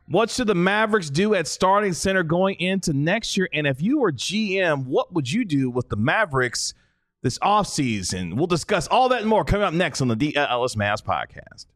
What should the Mavericks do at starting center going into next year? And if you were GM, what would you do with the Mavericks this offseason? We'll discuss all that and more coming up next on the DLS Mavs podcast.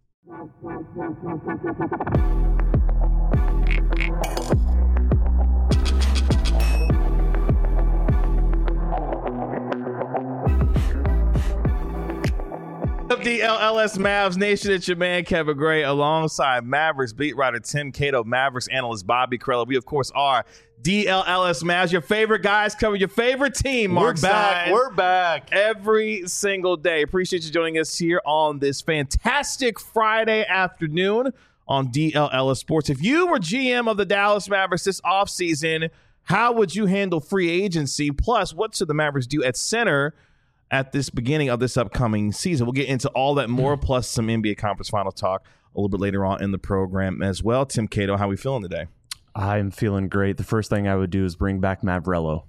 DLS Mavs Nation, it's your man Kevin Gray alongside Mavericks beat writer Tim Cato, Mavericks analyst Bobby Carella. We, of course, are DLS Mavs, your favorite guys covering your favorite team. Mark Stein, We're back every single day. Appreciate you joining us here on this fantastic Friday afternoon on DLS Sports. If you were GM of the Dallas Mavericks this offseason, how would you handle free agency? Plus, what should the Mavericks do at center at this beginning of this upcoming season? We'll get into all that more, plus some NBA Conference Final talk a little bit later on in the program as well. Tim Cato, how are we feeling today? I'm feeling great. The first thing I would do is bring back Mavrello.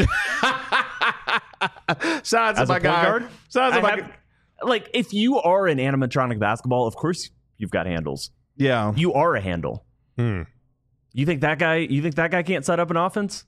Shout out to my guy. Shout out to my guy. Like, if you are an animatronic basketball, of course you've got handles. Yeah. You are a handle. You think that guy can't set up an offense?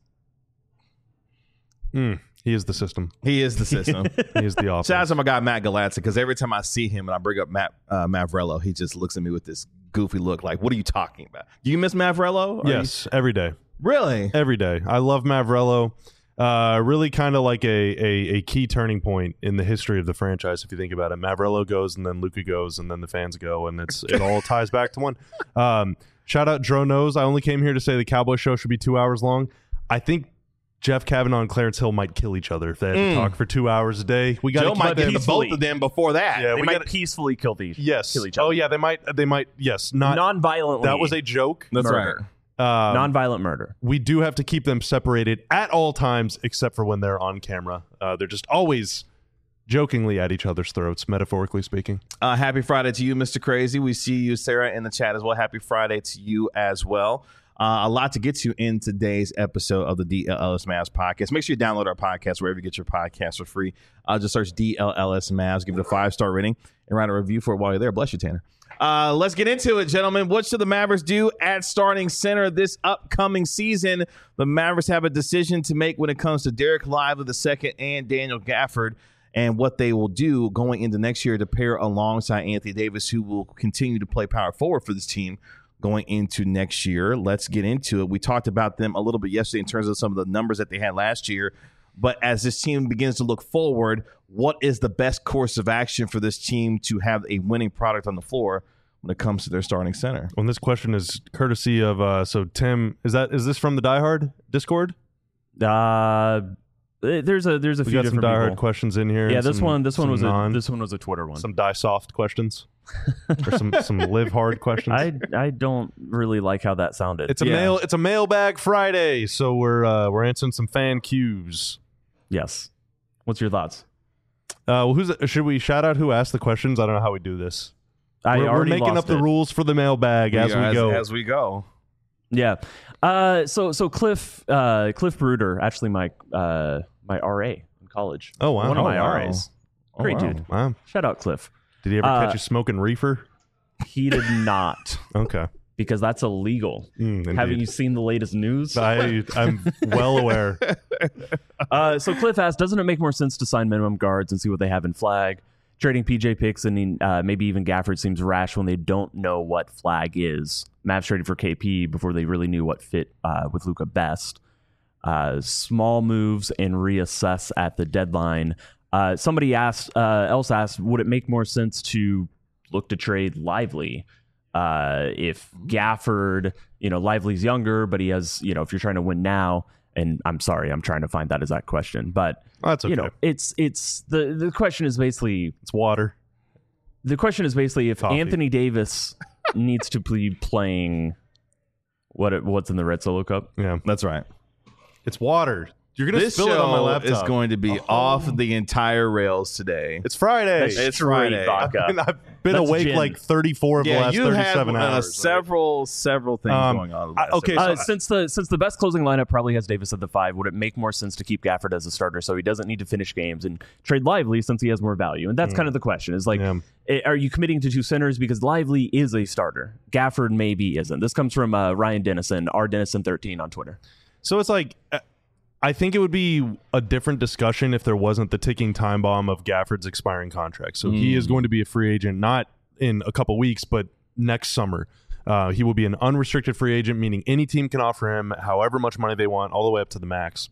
He is the system. He is the system. He is the offense. Shout out to my guy Matt Galatza, because every time I see him and I bring up Mavrello, he just looks at me with this goofy look like, what are you talking about? Do you miss Mavrello? Yes, every day. Really? Every day. I love Mavrello. Really kind of like a key turning point in the history of the franchise, if you think about it. Mavrello goes, and then Luka goes, and then the fans go, and it all ties back to one. Shout out Dro Knows. I only came here to say the Cowboy show should be 2 hours long. I think Jeff Kavanaugh and Clarence Hill might kill each other if they had to talk for 2 hours a day. We got Joe might get the both of them before that. Yeah, they might peacefully kill each other. Oh yeah, they might. Yes, not non-violently. That was a joke. That's murder. right. Non-violent murder. We do have to keep them separated at all times, except for when they're on camera. They're just always jokingly at each other's throats, metaphorically speaking. Happy Friday to you, Mr. Crazy. We see you, Sarah, in the chat as well. Happy Friday to you as well. A lot to get to in today's episode of the DLS Mavs podcast. Make sure you download our podcast wherever you get your podcasts for free. Just search DLS Mavs, give it a 5-star rating, and write a review for it while you're there. Bless you, Tanner. Let's get into it, gentlemen. What should the Mavericks do at starting center this upcoming season? The Mavericks have a decision to make when it comes to Derek Lively II and Daniel Gafford, and what they will do going into next year to pair alongside Anthony Davis, who will continue to play power forward for this team going into next year. Let's get into it. We talked about them a little bit yesterday in terms of some of the numbers that they had last year. But as this team begins to look forward, what is the best course of action for this team to have a winning product on the floor when it comes to their starting center? Well, this question is courtesy of so Tim. Is this from the Die Hard Discord? There's a few we got different some Die Hard people. questions in here. Yeah, this one was a Twitter one. Some Die Soft questions. Or some Live Hard questions. I don't really like how that sounded. It's a mailbag Friday, so we're answering some fan cues. Yes. What's your thoughts? Should we shout out who asked the questions? I don't know how we do this. We're making up the rules for the mailbag as we go. Yeah. So Cliff Bruder, actually my RA in college. Oh wow. One of my RAs. Great dude. Wow. Shout out Cliff. Did he ever catch you smoking reefer? He did not. Okay. Because that's illegal. Haven't you seen the latest news? I'm well aware. So Cliff asked, doesn't it make more sense to sign minimum guards and see what they have in flag? Trading PJ picks and maybe even Gafford seems rash when they don't know what flag is. Mavs traded for KP before they really knew what fit with Luka best. Small moves and reassess at the deadline. Somebody else asked, would it make more sense to look to trade Lively? If Gafford, Lively's younger, but he has, if you're trying to win now, and I'm sorry, I'm trying to find that exact question, but that's okay. It's the question is basically it's water. The question is basically if Coffee. Anthony Davis needs to be playing what's in the Red Solo Cup. Yeah, that's right. It's water. You're gonna This spill it on my show laptop. is going to be off the entire rails today. It's Friday. That's It's straight Friday. vodka. I've been That's awake gin. like 34 of the last you 37 have hours. several things going on. okay, Since the best closing lineup probably has Davis at the 5, would it make more sense to keep Gafford as a starter so he doesn't need to finish games and trade Lively since he has more value? And that's kind of the question. Is like, are you committing to 2 centers because Lively is a starter? Gafford maybe isn't. This comes from Ryan Dennison, rDennison13 on Twitter. So it's like, I think it would be a different discussion if there wasn't the ticking time bomb of Gafford's expiring contract. So he is going to be a free agent, not in a couple weeks, but next summer. He will be an unrestricted free agent, meaning any team can offer him however much money they want, all the way up to the max.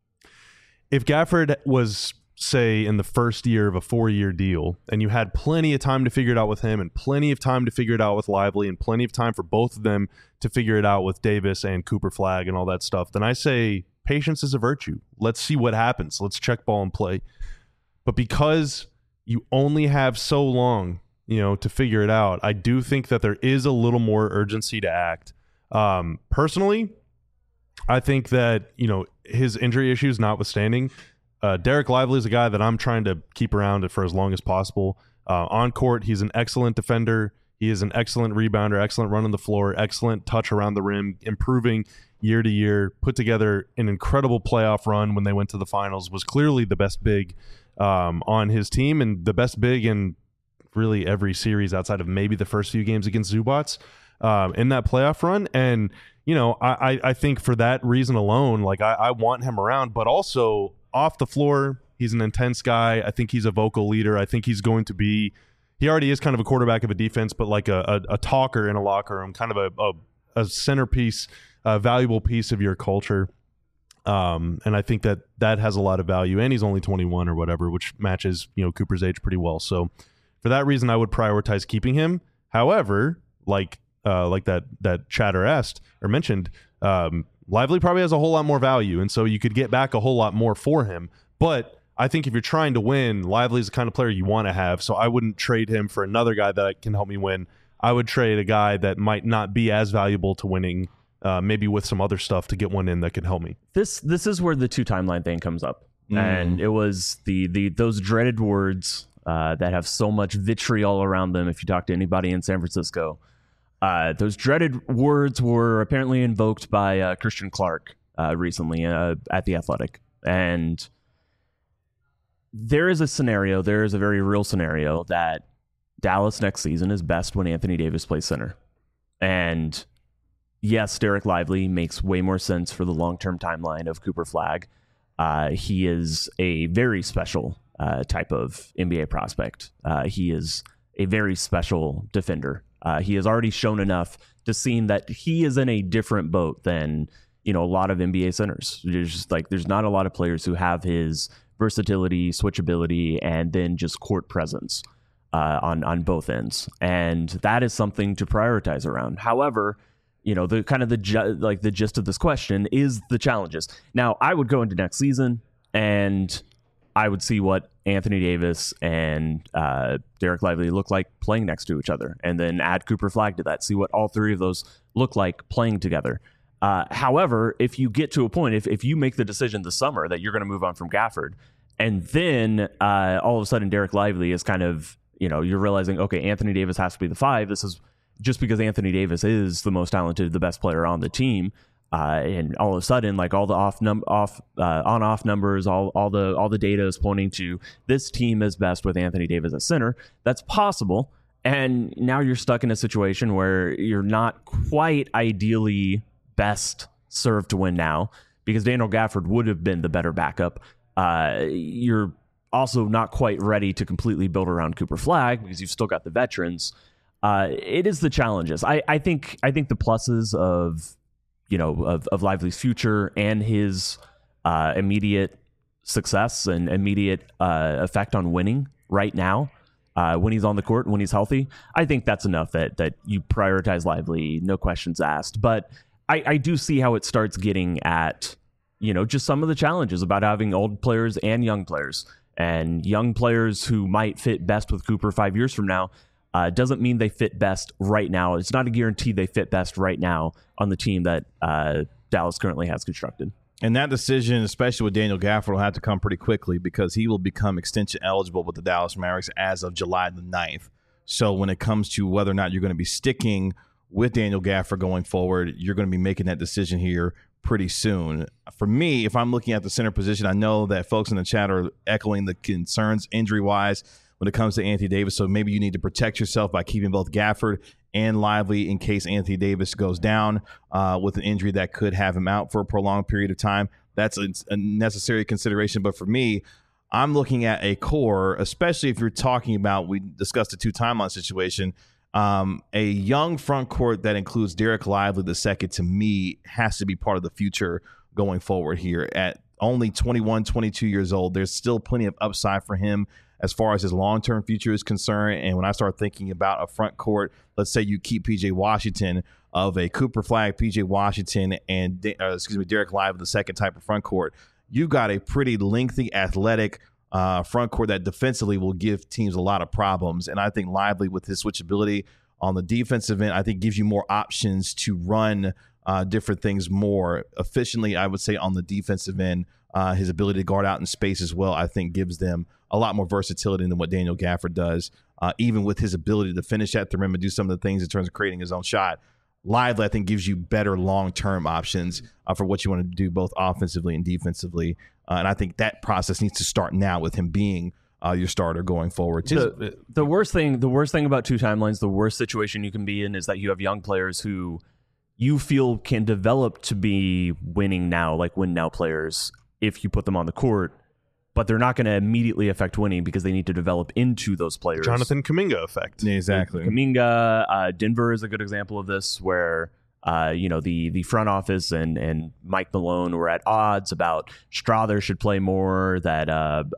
If Gafford was, say, in the first year of a 4-year deal, and you had plenty of time to figure it out with him and plenty of time to figure it out with Lively and plenty of time for both of them to figure it out with Davis and Cooper Flagg and all that stuff, then I say patience is a virtue. Let's see what happens. Let's check ball and play. But because you only have so long, to figure it out, I do think that there is a little more urgency to act. Personally, I think that, his injury issues notwithstanding, Derek Lively is a guy that I'm trying to keep around for as long as possible. On court, he's an excellent defender. He is an excellent rebounder, excellent run on the floor, excellent touch around the rim, improving year to year, put together an incredible playoff run when they went to the finals, was clearly the best big on his team and the best big in really every series outside of maybe the first few games against Zubats in that playoff run. And, I think for that reason alone, like I want him around, but also off the floor, he's an intense guy. I think he's a vocal leader. I think he's going to be, he already is kind of a quarterback of a defense, but like a talker in a locker room, kind of a centerpiece, a valuable piece of your culture. And I think that has a lot of value, and he's only 21 or whatever, which matches, Cooper's age pretty well. So for that reason, I would prioritize keeping him. However, like that chatter asked or mentioned, Lively probably has a whole lot more value, and so you could get back a whole lot more for him. But I think if you're trying to win, Lively is the kind of player you want to have, so I wouldn't trade him for another guy that can help me win. I would trade a guy that might not be as valuable to winning, maybe with some other stuff to get one in that can help me. This is where the 2 timeline thing comes up. And it was those dreaded words that have so much vitriol around them if you talk to anybody in San Francisco. Those dreaded words were apparently invoked by Christian Clark recently at The Athletic. And there is a very real scenario that Dallas next season is best when Anthony Davis plays center. And yes, Derek Lively makes way more sense for the long-term timeline of Cooper Flagg. He is a very special type of NBA prospect. He is a very special defender. He has already shown enough to seem that he is in a different boat than, a lot of NBA centers. There's not a lot of players who have his versatility, switchability, and then just court presence on both ends. And that is something to prioritize around. However, the gist of this question is the challenges. Now, I would go into next season and I would see what Anthony Davis and Derek Lively look like playing next to each other, and then add Cooper Flagg to that, see what all 3 of those look like playing together. However, if you get to a point, if you make the decision this summer that you're going to move on from Gafford, and then all of a sudden Derek Lively is kind of, you're realizing, okay, Anthony Davis has to be the 5. This is just because Anthony Davis is the most talented, the best player on the team. And all of a sudden, like all the on-off numbers, all the data is pointing to this team is best with Anthony Davis at center. That's possible. And now you're stuck in a situation where you're not quite ideally best served to win now because Daniel Gafford would have been the better backup. You're also not quite ready to completely build around Cooper Flagg because you've still got the veterans. It is the challenges. I think the pluses of Lively's future and his immediate success and immediate effect on winning right now, when he's on the court, when he's healthy, I think that's enough that you prioritize Lively, no questions asked. But I do see how it starts getting at, just some of the challenges about having old players and young players. And young players who might fit best with Cooper 5 years from now doesn't mean they fit best right now. It's not a guarantee they fit best right now on the team that Dallas currently has constructed. And that decision, especially with Daniel Gafford, will have to come pretty quickly because he will become extension eligible with the Dallas Mavericks as of July the 9th. So when it comes to whether or not you're going to be sticking with Daniel Gafford going forward, you're going to be making that decision here pretty soon. For me, if I'm looking at the center position, I know that folks in the chat are echoing the concerns injury-wise when it comes to Anthony Davis. So maybe you need to protect yourself by keeping both Gafford and Lively in case Anthony Davis goes down with an injury that could have him out for a prolonged period of time. That's a necessary consideration. But for me, I'm looking at a core, especially if you're talking about, we discussed the 2 timeline situation, a young front court that includes Derek Lively II, to me, has to be part of the future going forward here. At only 21, 22 years old, there's still plenty of upside for him as far as his long-term future is concerned. And when I start thinking about a front court, let's say you keep P.J. Washington, of a Cooper Flagg, P.J. Washington, and Derek Lively II type of front court, you've got a pretty lengthy, athletic front court that defensively will give teams a lot of problems. And I think Lively, with his switchability on the defensive end, I think gives you more options to run different things more efficiently. I would say on the defensive end, his ability to guard out in space as well, I think gives them a lot more versatility than what Daniel Gafford does, even with his ability to finish at the rim and do some of the things in terms of creating his own shot. Lively, I think, gives you better long-term options for what you want to do both offensively and defensively. And I think that process needs to start now with him being your starter going forward. The worst thing about 2 timelines, the worst situation you can be in is that you have young players who you feel can develop to be winning now, like win now players, if you put them on the court, but they're not going to immediately affect winning because they need to develop into those players. Jonathan Kuminga effect. Exactly. Kuminga, Denver is a good example of this, where the front office and Mike Malone were at odds about Strother should play more, that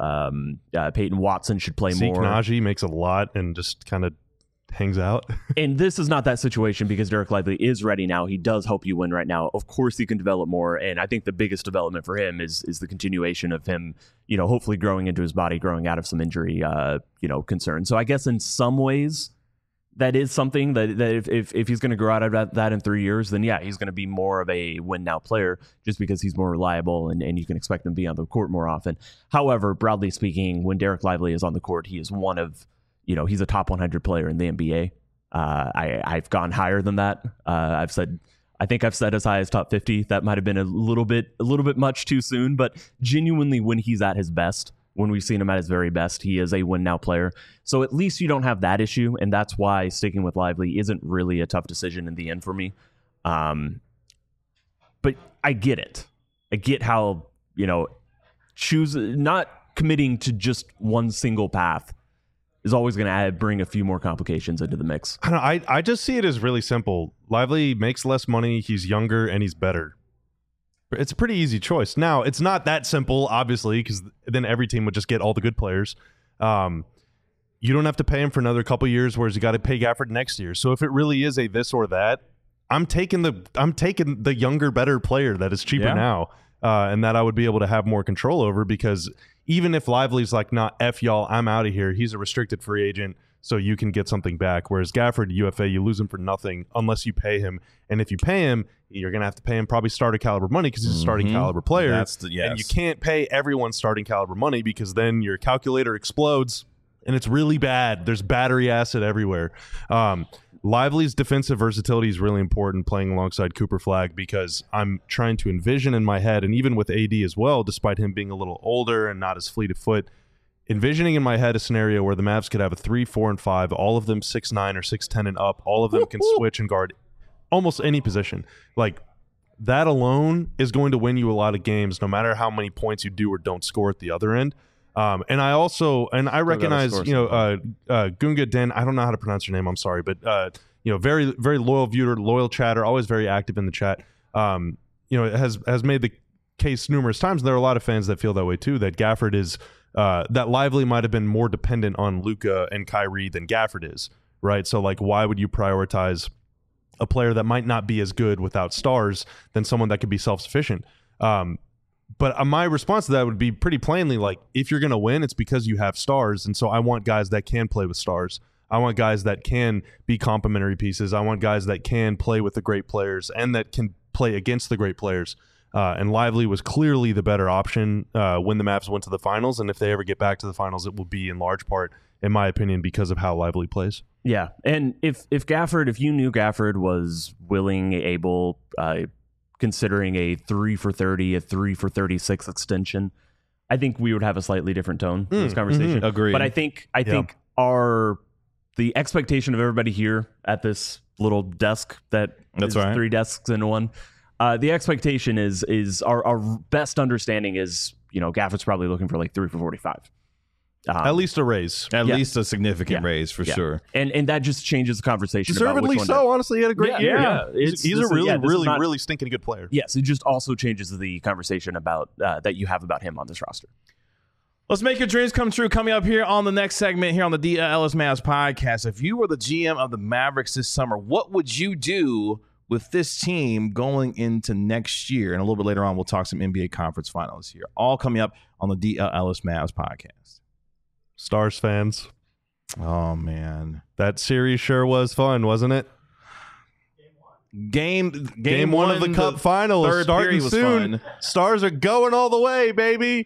Peyton Watson should play more. Zeke Naji makes a lot and just kind of hangs out. And this is not that situation because Derek Lively is ready now. He does help you win right now. Of course, he can develop more, and I think the biggest development for him is the continuation of him, hopefully growing into his body, growing out of some injury, concern. So I guess in some ways, that is something that if he's going to grow out of that in 3 years, then yeah, he's going to be more of a win now player just because he's more reliable and you can expect him to be on the court more often. However, broadly speaking, when Derek Lively is on the court, he is one of, he's a top 100 player in the NBA. I've gone higher than that. I think I've said as high as top 50. That might have been a little bit much too soon, but genuinely when he's at his best, when we've seen him at his very best, he is a win-now player. So at least you don't have that issue, and that's why sticking with Lively isn't really a tough decision in the end for me. But I get it. I get how, not committing to just one single path is always going to bring a few more complications into the mix. I just see it as really simple. Lively makes less money, he's younger, and he's better. It's a pretty easy choice. Now, it's not that simple, obviously, because then every team would just get all the good players. You don't have to pay him for another couple years, whereas you got to pay Gafford next year. So if it really is a this or that, I'm taking the younger, better player that is cheaper now, and that I would be able to have more control over, because even if Lively's like, nah, F y'all, I'm out of here, he's a restricted free agent, so you can get something back. Whereas Gafford, UFA, you lose him for nothing unless you pay him. And if you pay him, you're going to have to pay him probably starter caliber money because he's a starting caliber player. And you can't pay everyone starting caliber money because then your calculator explodes and it's really bad. There's battery acid everywhere. Lively's defensive versatility is really important playing alongside Cooper Flagg, because I'm trying to envision in my head, and even with AD as well, despite him being a little older and not as fleet of foot, envisioning in my head a scenario where the Mavs could have a 3, 4, and 5, all of them 6'9" or 6'10" and up. All of them can switch and guard almost any position. Like, that alone is going to win you a lot of games, no matter how many points you do or don't score at the other end. And I recognize, Gunga Den, I don't know how to pronounce your name, I'm sorry, but very, very loyal viewer, loyal chatter, always very active in the chat. Has made the case numerous times. And there are a lot of fans that feel that way too, that Gafford is that Lively might have been more dependent on Luka and Kyrie than Gafford is, right? So like, why would you prioritize a player that might not be as good without stars than someone that could be self-sufficient? But my response to that would be pretty plainly, like, if you're going to win, it's because you have stars. And so I want guys that can play with stars. I want guys that can be complementary pieces. I want guys that can play with the great players and that can play against the great players. And Lively was clearly the better option when the Mavs went to the finals. And if they ever get back to the finals, it will be in large part, in my opinion, because of how Lively plays. Yeah, and if you knew Gafford was willing, able, considering a 3 for 30, a 3 for 36 extension, I think we would have a slightly different tone in this conversation. Agreed. But I think the expectation of everybody here at this little desk that's right. 3 desks in one. The expectation is our best understanding is, Gafford's probably looking for like 3 for 45. At least a raise. At least a significant raise for sure. And that just changes the conversation. Deservedly about which so. one Honestly, he had a great year. Yeah. He's a really stinking good player. Yes, it just also changes the conversation about that you have about him on this roster. Let's make your dreams come true. Coming up here on the next segment here on the DLS Mavs podcast. If you were the GM of the Mavericks this summer, what would you do with this team going into next year? And a little bit later on, we'll talk some NBA conference finals here. All coming up on the DLS Mavs podcast. Stars fans. Oh, man. That series sure was fun, wasn't it? Game one of the Cup final is starting soon. Fun. Stars are going all the way, baby.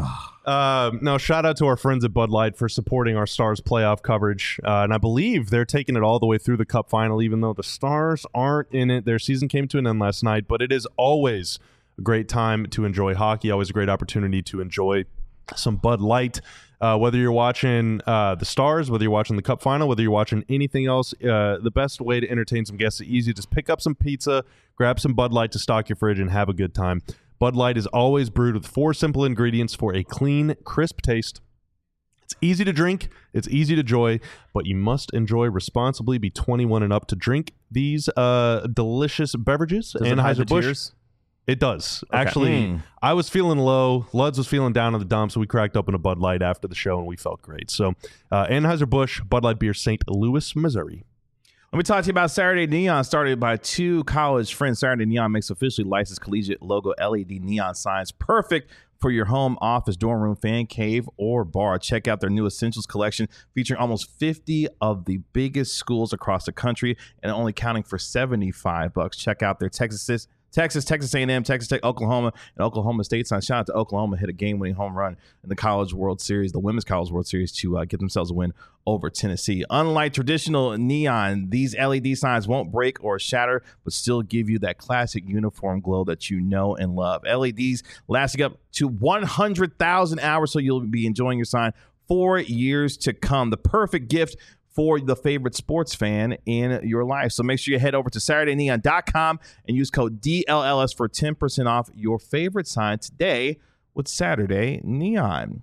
No, shout out to our friends at Bud Light for supporting our Stars playoff coverage. And I believe they're taking it all the way through the Cup final, even though the Stars aren't in it. Their season came to an end last night, but it is always a great time to enjoy hockey, always a great opportunity to enjoy some Bud Light. Whether you're watching the Stars, whether you're watching the Cup final, whether you're watching anything else, the best way to entertain some guests is easy. Just pick up some pizza, grab some Bud Light to stock your fridge, and have a good time. Bud Light is always brewed with 4 simple ingredients for a clean, crisp taste. It's easy to drink, it's easy to enjoy, but you must enjoy responsibly. Be 21 and up to drink these delicious beverages. Anheuser-Busch. It does. Okay. Actually, I was feeling low. Luds was feeling down in the dumps, so we cracked open a Bud Light after the show, and we felt great. So, Anheuser-Busch, Bud Light Beer, St. Louis, Missouri. Let me talk to you about Saturday Neon, started by 2 college friends. Saturday Neon makes officially licensed collegiate logo LED neon signs, perfect for your home, office, dorm room, fan cave, or bar. Check out their new Essentials collection featuring almost 50 of the biggest schools across the country and only counting for $75. Check out their Texas A&M, Texas Tech, Oklahoma, and Oklahoma State signs. Shout out to Oklahoma, hit a game-winning home run in the College World Series, the Women's College World Series, to get themselves a win over Tennessee. Unlike traditional neon, these LED signs won't break or shatter, but still give you that classic uniform glow that you know and love. LEDs lasting up to 100,000 hours, so you'll be enjoying your sign for years to come. The perfect gift for the favorite sports fan in your life. So make sure you head over to SaturdayNeon.com and use code DLLS for 10% off your favorite sign today with Saturday Neon.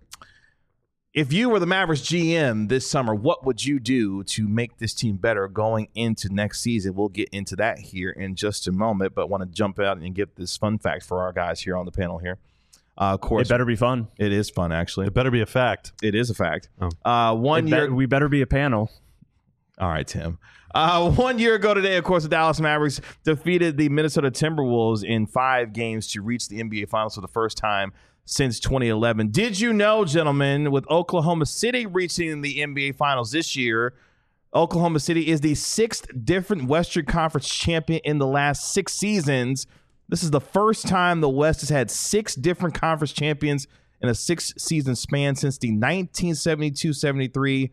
If you were the Mavericks GM this summer, what would you do to make this team better going into next season? We'll get into that here in just a moment, but want to jump out and give this fun fact for our guys here on the panel here. Of course, it better be fun. It is fun, actually. It better be a fact. It is a fact. Oh. 1 year. We better be a panel. All right, Tim. 1 year ago today, of course, the Dallas Mavericks defeated the Minnesota Timberwolves in 5 games to reach the NBA Finals for the first time since 2011. Did you know, gentlemen, with Oklahoma City reaching the NBA Finals this year, Oklahoma City is the 6th different Western Conference champion in the last 6 seasons. This is the first time the West has had 6 different conference champions in a 6-season span since the 1972-73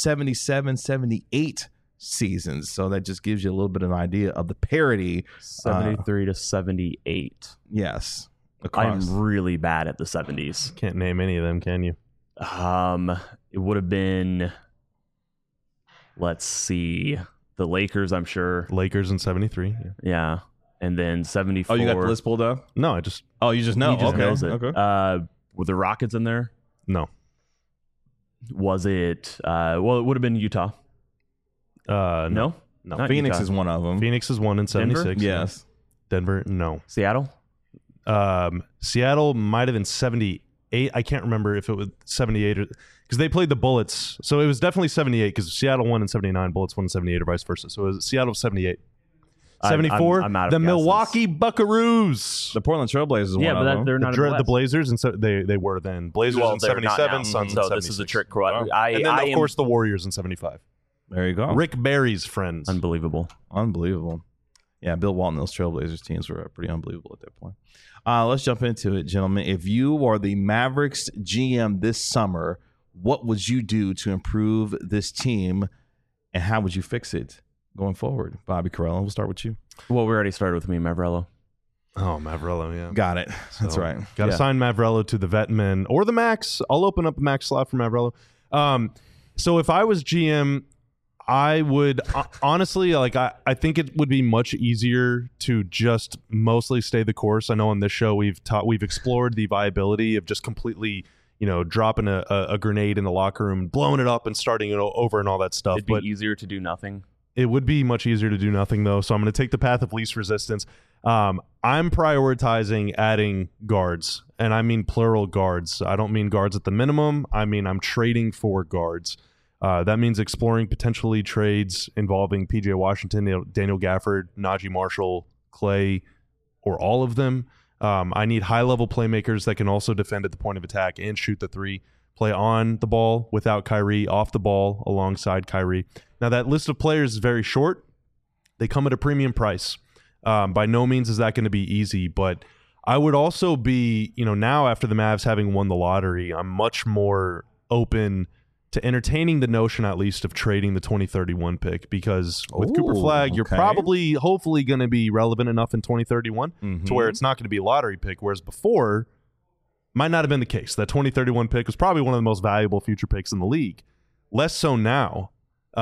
77-78 seasons. So that just gives you a little bit of an idea of the parity. 73 to 78. Yes. I'm really bad at the 70s. Can't name any of them, can you? It would have been, let's see, the Lakers, I'm sure. Lakers in 73. Yeah. And then 74. Oh, you got the list pulled up? No, I just... Oh, you just know? He just knows it. Okay. Were the Rockets in there? No. Was it? Well, it would have been Utah. No. Phoenix Utah. is one of them. Phoenix is one in 76. Yes. Denver, no. Seattle? Seattle might have been 78. I can't remember if it was 78 or... Because they played the Bullets. So it was definitely 78 because Seattle won in 79, Bullets won in 78 or vice versa. So it was Seattle 78. 74, I'm out of the guesses. Milwaukee Buckaroos. The Portland Trailblazers is one of them. They're not The Blazers, and so they were then. Blazers in 77, Suns in 76. So this is a trick. And then, of course, the Warriors in 75. There you go. Rick Barry's friends. Unbelievable. Yeah, Bill Walton, those Trailblazers teams were pretty unbelievable at that point. Let's jump into it, gentlemen. If you are the Mavericks GM this summer, what would you do to improve this team, and how would you fix it going forward? Bobby Karalla, we'll start with you. Well, we already started with me, Mavrello. Oh, Mavrello, yeah. Got it. That's So, right. Got to sign Mavrello to the vet min or the max. I'll open up a max slot for Mavrello. So if I was GM, I would honestly, like, I think it would be much easier to just mostly stay the course. I know on this show we've explored the viability of just completely, dropping a grenade in the locker room, blowing it up and starting it over and all that stuff. It'd be easier to do nothing. It would be much easier to do nothing, though. So I'm going to take the path of least resistance. I'm prioritizing adding guards, and I mean plural guards. I don't mean guards at the minimum. I mean I'm trading for guards. That means exploring potentially trades involving PJ Washington, Daniel Gafford, Najee Marshall, Clay, or all of them. I need high-level playmakers that can also defend at the point of attack and shoot the three, play on the ball without Kyrie, off the ball alongside Kyrie. Now, that list of players is very short. They come at a premium price. By no means is that going to be easy, but I would also be, now after the Mavs having won the lottery, I'm much more open to entertaining the notion, at least, of trading the 2031 pick, because with Cooper Flagg, you're probably, hopefully, going to be relevant enough in 2031 to where it's not going to be a lottery pick, whereas before, might not have been the case. That 2031 pick was probably one of the most valuable future picks in the league. Less so now.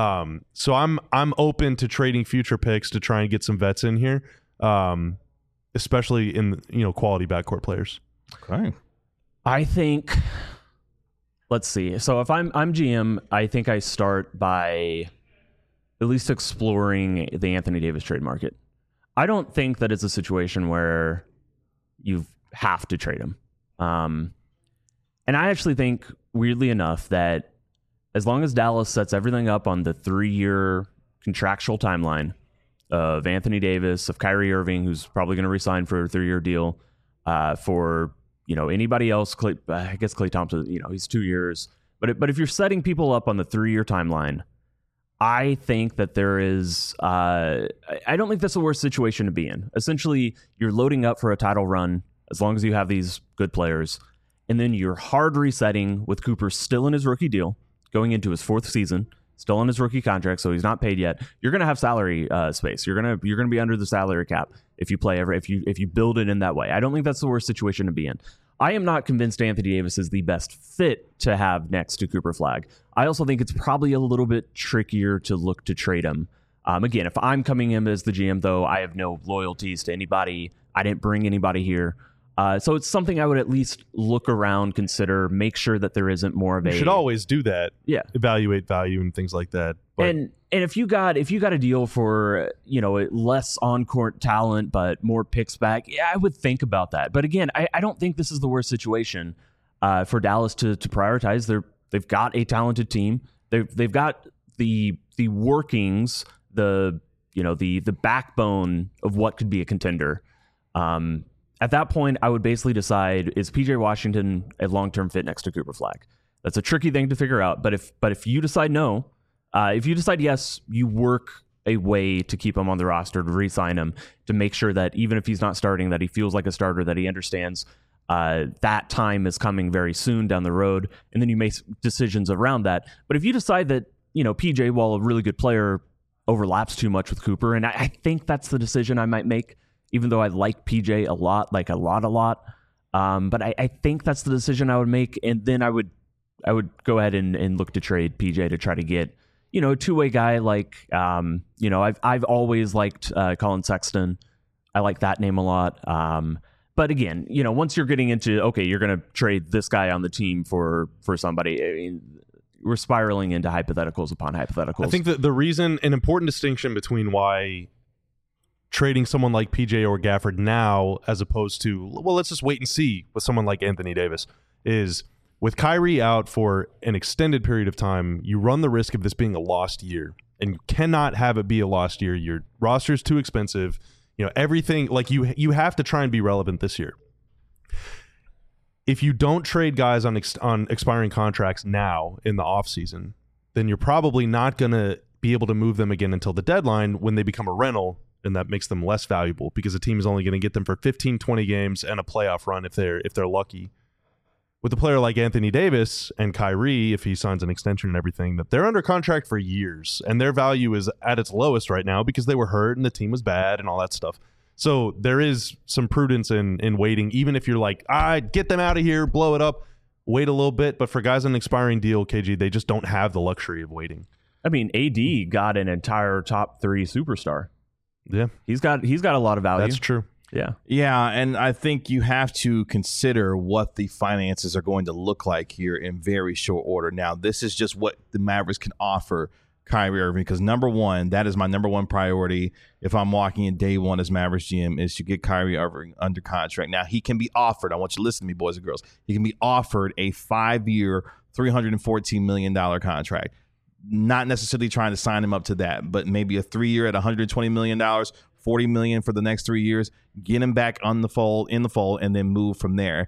So I'm open to trading future picks to try and get some vets in here, especially in quality backcourt players. Okay. I think. Let's see. So if I'm GM, I think I start by at least exploring the Anthony Davis trade market. I don't think that it's a situation where you have to trade him. And I actually think, weirdly enough, that as long as Dallas sets everything up on the 3-year contractual timeline of Anthony Davis, of Kyrie Irving, who's probably going to resign for a 3-year deal, for anybody else, I guess Klay Thompson, he's 2 years. But if you're setting people up on the 3-year timeline, I think that there is, I don't think that's the worst situation to be in. Essentially, you're loading up for a title run as long as you have these good players. And then you're hard resetting with Cooper still in his rookie deal, going into his 4th season, still on his rookie contract, so he's not paid yet. You're going to have salary space. You're going to be under the salary cap if you build it in that way. I don't think that's the worst situation to be in. I am not convinced Anthony Davis is the best fit to have next to Cooper Flagg. I also think it's probably a little bit trickier to look to trade him. Again, if I'm coming in as the GM, though, I have no loyalties to anybody. I didn't bring anybody here. So it's something I would at least look around, consider, make sure that there isn't more of a... You should always do that. Yeah. Evaluate value and things like that. But And if you got a deal for, less on-court talent but more picks back, yeah, I would think about that. But again, I don't think this is the worst situation for Dallas to prioritize. They've got a talented team. They've got the workings, the backbone of what could be a contender. At that point, I would basically decide, is PJ Washington a long-term fit next to Cooper Flagg? That's a tricky thing to figure out. But if you decide no, if you decide yes, you work a way to keep him on the roster, to re-sign him, to make sure that even if he's not starting, that he feels like a starter, that he understands that time is coming very soon down the road, and then you make decisions around that. But if you decide that PJ, while a really good player, overlaps too much with Cooper, and I think that's the decision I might make, even though I like PJ a lot. But I think that's the decision I would make, and then I would go ahead and look to trade PJ to try to get a two-way guy like I've always liked Colin Sexton. I like that name a lot. But again, once you're getting into you're going to trade this guy on the team for somebody. I mean, we're spiraling into hypotheticals upon hypotheticals. I think that the reason, an important distinction between why trading someone like PJ or Gafford now, as opposed to, let's just wait and see with someone like Anthony Davis, is with Kyrie out for an extended period of time, you run the risk of this being a lost year, and you cannot have it be a lost year. Your roster is too expensive. Everything, like you have to try and be relevant this year. If you don't trade guys on expiring contracts now in the offseason, then you're probably not going to be able to move them again until the deadline when they become a rental and that makes them less valuable because a team is only going to get them for 15, 20 games and a playoff run if they're lucky. With a player like Anthony Davis and Kyrie, if he signs an extension and everything, that they're under contract for years, and their value is at its lowest right now because they were hurt and the team was bad and all that stuff. So there is some prudence in waiting, even if you're like, get them out of here, blow it up, wait a little bit. But for guys on an expiring deal, KG, they just don't have the luxury of waiting. I mean, AD got an entire top 3 superstar. Yeah, he's got a lot of value. That's true. Yeah, and I think you have to consider what the finances are going to look like here in very short order. Now, this is just what the Mavericks can offer Kyrie Irving, because number one, that is my number one priority if I'm walking in day one as Mavericks GM, is to get Kyrie Irving under contract. Now, he can be offered, I want you to listen to me, boys and girls, he can be offered a 5-year, $314 million contract. Not necessarily trying to sign him up to that, but maybe a 3-year at $120 million, $40 million for the next 3 years, get him back in the fold, and then move from there.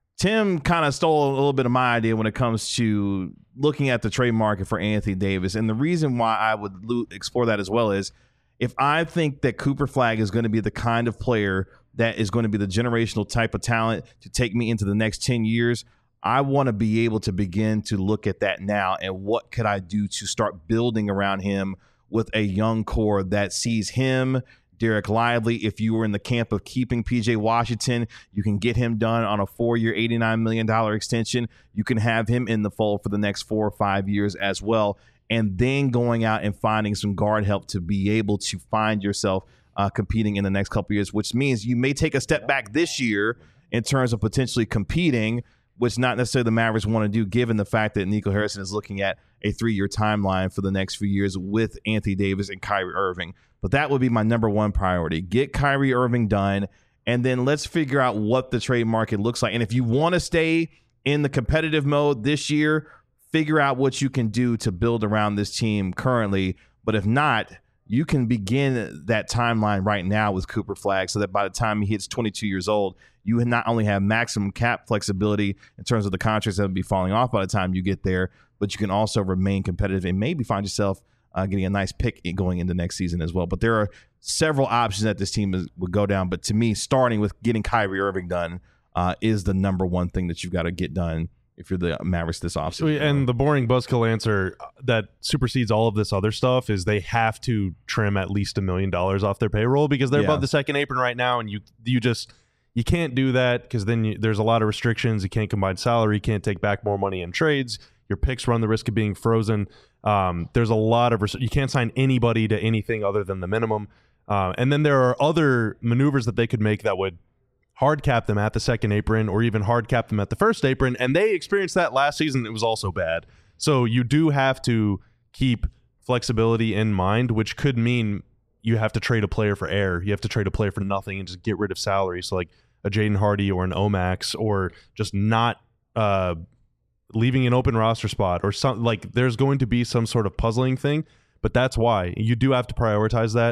Tim kind of stole a little bit of my idea when it comes to looking at the trade market for Anthony Davis. And the reason why I would explore that as well is if I think that Cooper Flagg is going to be the kind of player that is going to be the generational type of talent to take me into the next 10 years, I want to be able to begin to look at that now and what could I do to start building around him with a young core that sees him, Derek Lively. If you were in the camp of keeping PJ Washington, you can get him done on a 4-year, $89 million extension. You can have him in the fold for the next 4 or 5 years as well. And then going out and finding some guard help to be able to find yourself competing in the next couple of years, which means you may take a step back this year in terms of potentially competing, which not necessarily the Mavericks want to do, given the fact that Nico Harrison is looking at a 3-year timeline for the next few years with Anthony Davis and Kyrie Irving. But that would be my number one priority. Get Kyrie Irving done, and then let's figure out what the trade market looks like. And if you want to stay in the competitive mode this year, figure out what you can do to build around this team currently. But if not, you can begin that timeline right now with Cooper Flagg so that by the time he hits 22 years old, you not only have maximum cap flexibility in terms of the contracts that will be falling off by the time you get there, but you can also remain competitive and maybe find yourself getting a nice pick going into next season as well. But there are several options that this team would go down. But to me, starting with getting Kyrie Irving done is the number one thing that you've got to get done if you're the Mavericks this offseason. And the boring buzzkill answer that supersedes all of this other stuff is they have to trim at least $1 million off their payroll because they're above the second apron right now, and you can't do that because then there's a lot of restrictions. You can't combine salary, you can't take back more money in trades. Your picks run the risk of being frozen. There's a lot of you can't sign anybody to anything other than the minimum. And then there are other maneuvers that they could make that would hard cap them at the second apron or even hard cap them at the first apron. And they experienced that last season. It was also bad. So you do have to keep flexibility in mind, which could mean you have to trade a player for air. You have to trade a player for nothing and just get rid of salary. So like a Jaden Hardy or an Omax, or just not leaving an open roster spot or something. Like there's going to be some sort of puzzling thing, but that's why you do have to prioritize that.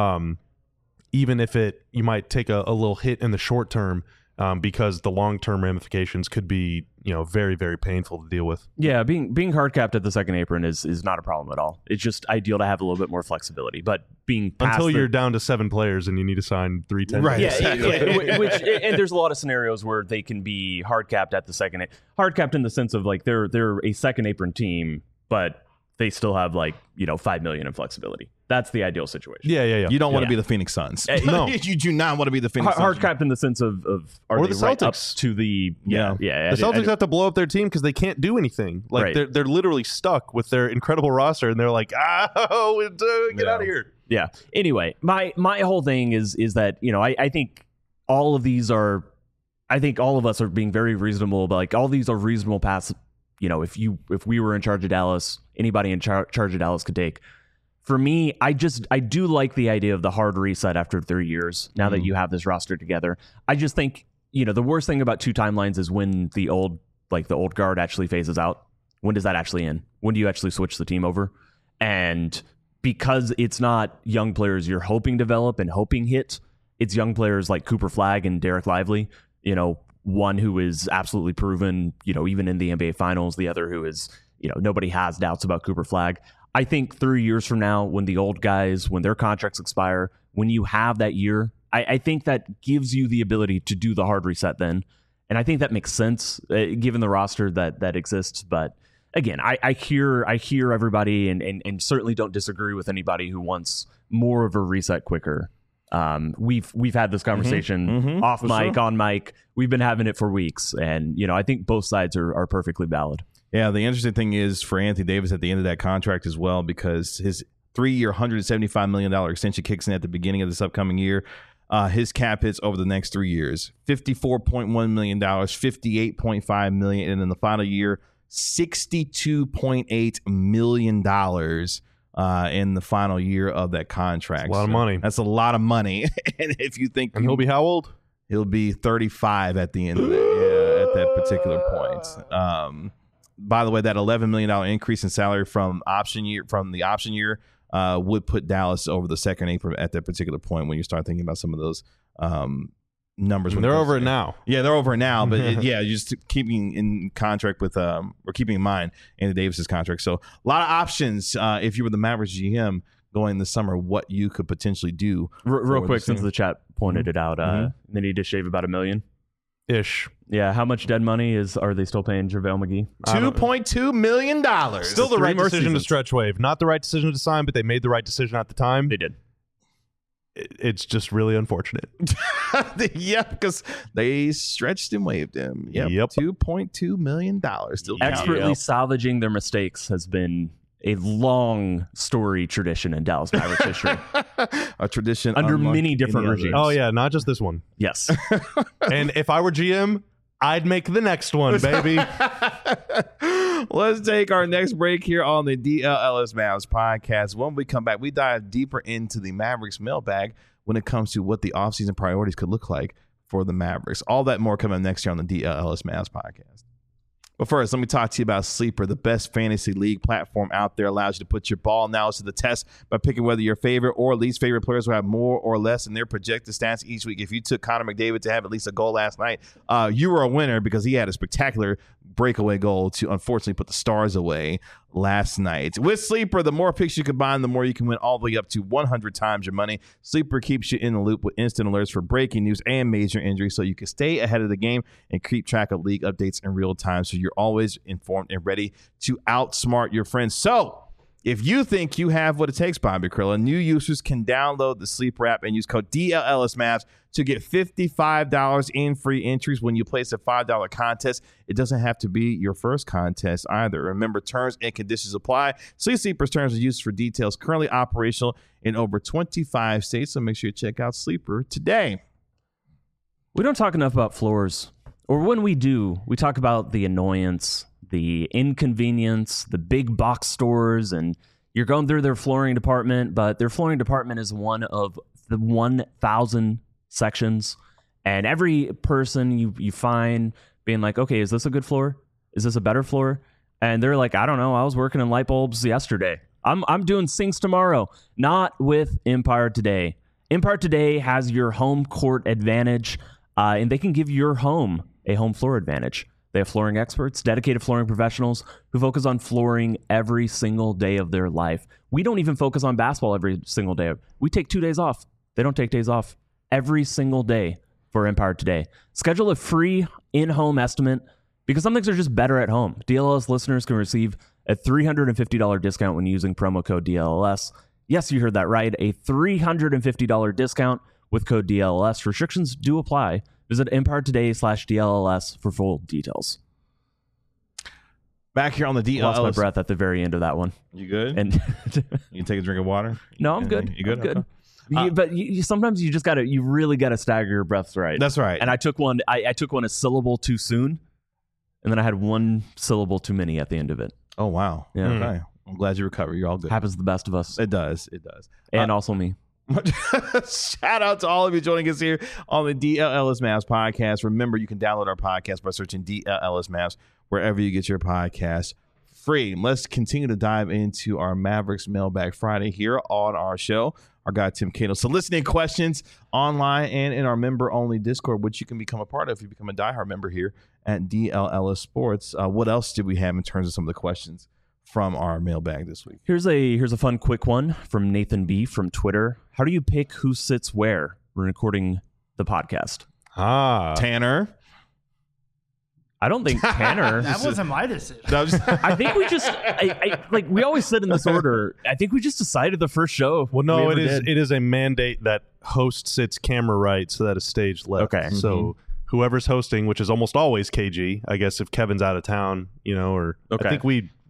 Even if you might take a little hit in the short term, because the long-term ramifications could be, very, very painful to deal with. Yeah, being hard capped at the second apron is not a problem at all. It's just ideal to have a little bit more flexibility. But being until you're down to 7 players and you need to sign 3 10, right? Yeah, and there's a lot of scenarios where they can be hard capped at the second. Hard capped in the sense of like they're a second apron team, but they still have $5 million in flexibility. That's the ideal situation. Yeah. You don't want to be the Phoenix Suns. No, you do not want to be the Phoenix Suns. Hard capped in the sense of are or they the Celtics right up to the The Celtics have to blow up their team because they can't do anything. Like they're literally stuck with their incredible roster, and they're like, get out of here. Yeah. Anyway, my whole thing is that I think all of these are. I think all of us are being very reasonable, but like all these are reasonable paths. If we were in charge of Dallas, anybody in charge of Dallas could take. For me, I do like the idea of the hard reset after 3 years. Now that you have this roster together, I just think the worst thing about 2 timelines is when the old guard actually phases out. When does that actually end? When do you actually switch the team over? And because it's not young players you're hoping develop and hoping hit, it's young players like Cooper Flagg and Derek Lively. One who is absolutely proven, even in the NBA Finals. The other who is, nobody has doubts about Cooper Flagg. I think 3 years from now, when the old guys, when their contracts expire, when you have that year, I think that gives you the ability to do the hard reset then. And I think that makes sense given the roster that exists. But again, I hear everybody and certainly don't disagree with anybody who wants more of a reset quicker. We've had this conversation off mic, on mic. We've been having it for weeks. And, I think both sides are perfectly valid. Yeah, the interesting thing is for Anthony Davis at the end of that contract as well, because his 3-year, $175 million extension kicks in at the beginning of this upcoming year. His cap hits over the next 3 years, $54.1 million, $58.5 million, and in the final year, $62.8 million in the final year of that contract. That's a lot of money. That's a lot of money. And if you think, and he'll be how old? He'll be 35 at the end of it, at that particular point. By the way, that $11 million increase in salary from the option year would put Dallas over the second apron at that particular point when you start thinking about some of those numbers. They're over it now. Yeah, they're over it now. But just keeping in contract with or keeping in mind Anthony Davis's contract. So a lot of options if you were the Mavericks GM going this summer, what you could potentially do. Real quick, since the chat pointed it out, they need to shave about $1 million. Ish. Yeah, how much dead money are they still paying JaVale McGee? $2.2 million. Still the right decision to stretch wave. Not the right decision to sign, but they made the right decision at the time. They did. It's just really unfortunate. Yeah, because they stretched and waived him. Yep. $2.2 million. Still expertly salvaging their mistakes has been a long story tradition in Dallas Mavericks history. A tradition under many different regimes. Oh yeah, not just this one. Yes. And if I were GM, I'd make the next one, baby. Let's take our next break here on the DLLS Mavs podcast. When we come back, we dive deeper into the Mavericks mailbag when it comes to what the offseason priorities could look like for the Mavericks. All that more coming next year on the DLLS Mavs podcast. But first, let me talk to you about Sleeper, the best fantasy league platform out there. Allows you to put your ball analysis to the test by picking whether your favorite or least favorite players will have more or less in their projected stats each week. If you took Connor McDavid to have at least a goal last night, you were a winner because he had a spectacular breakaway goal to unfortunately put the Stars away last night. With Sleeper, the more picks you combine, the more you can win, all the way up to 100 times your money. Sleeper keeps you in the loop with instant alerts for breaking news and major injuries, so you can stay ahead of the game and keep track of league updates in real time, so you're always informed and ready to outsmart your friends. So if you think you have what it takes, Bobby Krilla, new users can download the Sleeper app and use code DLLSMavs to get $55 in free entries when you place a $5 contest. It doesn't have to be your first contest either. Remember, terms and conditions apply. See Sleeper's terms and uses for details. Currently operational in over 25 states, so make sure you check out Sleeper today. We don't talk enough about floors. Or when we do, we talk about the annoyance, the inconvenience, the big box stores, and you're going through their flooring department, but their flooring department is one of the 1,000 sections. And every person you find being like, okay, is this a good floor? Is this a better floor? And they're like, I don't know. I was working in light bulbs yesterday. I'm doing sinks tomorrow. Not with Empire Today. Empire Today has your home court advantage, and they can give your home a home floor advantage. They have flooring experts, dedicated flooring professionals who focus on flooring every single day of their life. We don't even focus on basketball every single day. We take 2 days off. They don't take days off every single day for Empire Today. Schedule a free in-home estimate because some things are just better at home. DLLS listeners can receive a $350 discount when using promo code DLLS. Yes, you heard that right. A $350 discount with code DLLS. Restrictions do apply. Visit EmpireToday/DLLS for full details. Back here on the DLLS. Lost my breath at the very end of that one. You good? And you can take a drink of water? No, I'm good. You good? I'm good. But sometimes you really got to stagger your breaths right. That's right. And I took one a syllable too soon, and then I had one syllable too many at the end of it. Oh, wow. Yeah. Okay. I'm glad you recovered. You're all good. Happens to the best of us. It does. It does. And also me. Shout out to all of you joining us here on the DLLS Mavs podcast. Remember, you can download our podcast by searching DLLS Mavs wherever you get your podcast free. Let's continue to dive into our Mavericks Mailbag Friday here on our show. Our guy Tim Cato soliciting questions online and in our member-only Discord, which you can become a part of if you become a diehard member here at DLLS Sports. What else did we have in terms of some of the questions from our mailbag this week. Here's a fun quick one from Nathan B from Twitter. How do you pick who sits where when recording the podcast? Tanner. I don't think Tanner. That wasn't my decision. I think we just like we always sit in this order. I think we just decided the first show. Well, no, we it ever is did. it is a mandate that host sits camera right so that a stage left. Okay. So whoever's hosting, which is almost always KG, I guess if Kevin's out of town, or Okay. I think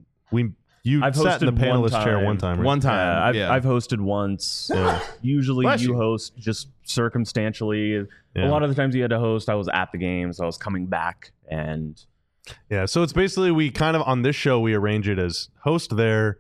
you I've sat in the hosted one panelist chair time. one time. Right? One time. I've hosted once. Usually Bless you you. host just circumstantially. Yeah. A lot of the times you had to host, I was at the game, so I was coming back and Yeah, so it's basically we kind of on this show we arrange it as host there,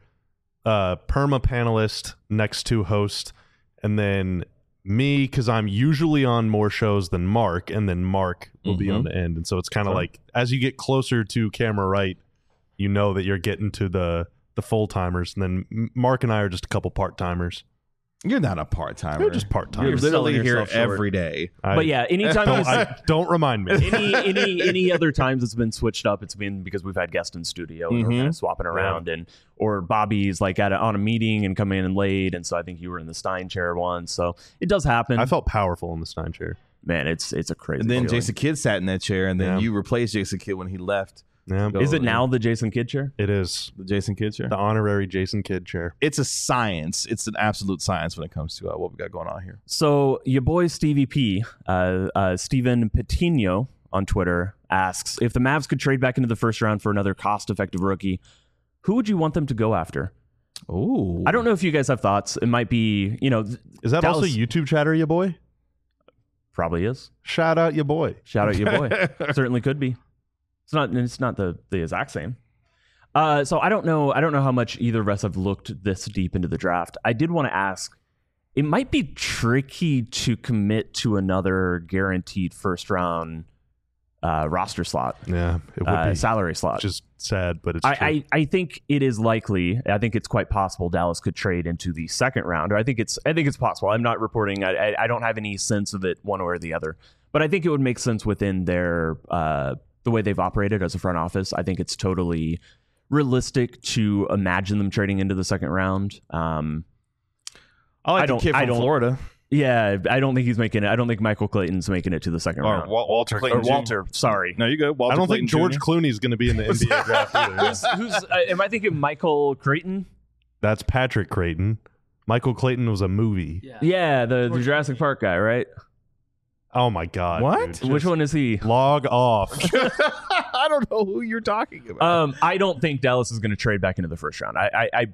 perma panelist next to host, and then me because I'm usually on more shows than Mark, and then Mark will be on the end, and so it's kind of like as you get closer to camera right, you know that you're getting to the full timers, and then Mark and I are just a couple part timers. You're not a part-timer. You're just part You're timers. literally selling here yourself short. every day. but yeah, anytime Don't remind me. any other times it's been switched up, it's been because we've had guests in studio and we're kind of swapping around, and or Bobby's like on a meeting and coming in late, and so I think you were in the Stein chair once, so it does happen. I felt powerful in the Stein chair. Man, it's a crazy. And then feeling. Jason Kidd sat in that chair, and then Yeah. you replaced Jason Kidd when he left. Yeah, Is it now the Jason Kidd chair? it is The Jason Kidd chair. the honorary Jason Kidd chair. It's a science. It's an absolute science when it comes to what we got going on here. So your boy Stevie P, Steven Patino on Twitter asks, if the Mavs could trade back into the first round for another cost-effective rookie, who would you want them to go after? Oh, I don't know if you guys have thoughts. It might be, Is that also Dallas- YouTube chatter, ya boy? probably is. Shout out, ya boy. Shout out your boy. Certainly could be. It's not the exact same. So I don't know how much either of us have looked this deep into the draft. I did want to ask, it might be tricky to commit to another guaranteed first round roster slot, Yeah, it would be salary slot. just sad, but it's true. I think it is likely. I think it's quite possible Dallas could trade into the second round. Or I think it's possible. I'm not reporting. I don't have any sense of it one way or the other. But I think it would make sense within their the way they've operated as a front office. I think it's totally realistic to imagine them trading into the second round. I like the kid from Florida. Yeah, I don't think he's making it. I don't think Michael Clayton's making it to the second round. Walter Or Clayton. Walter, sorry. No, you go. Walter I don't Clayton think George Jr. Clooney's going to be in the NBA draft either. Who's am I thinking Michael Creighton? That's Patrick Creighton. Michael Clayton was a movie. Yeah, the Jurassic Park guy, right? Oh my god! What? dude. Which one is he? Log off. I don't know who you're talking about. I don't think Dallas is going to trade back into the first round.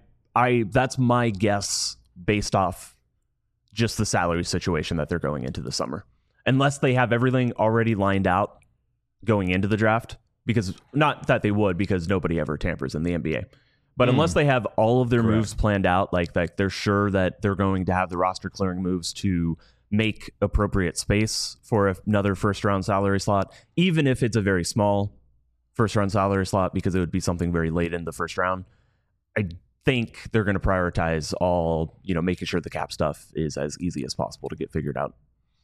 I that's my guess based off just the salary situation that they're going into the summer. Unless they have everything already lined out going into the draft, because not that they would, because nobody ever tampers in the NBA. But unless they have all of their moves planned out, like they're sure that they're going to have the roster clearing moves to make appropriate space for another first round salary slot, even if it's a very small first round salary slot, because it would be something very late in the first round. I think they're going to prioritize all, making sure the cap stuff is as easy as possible to get figured out.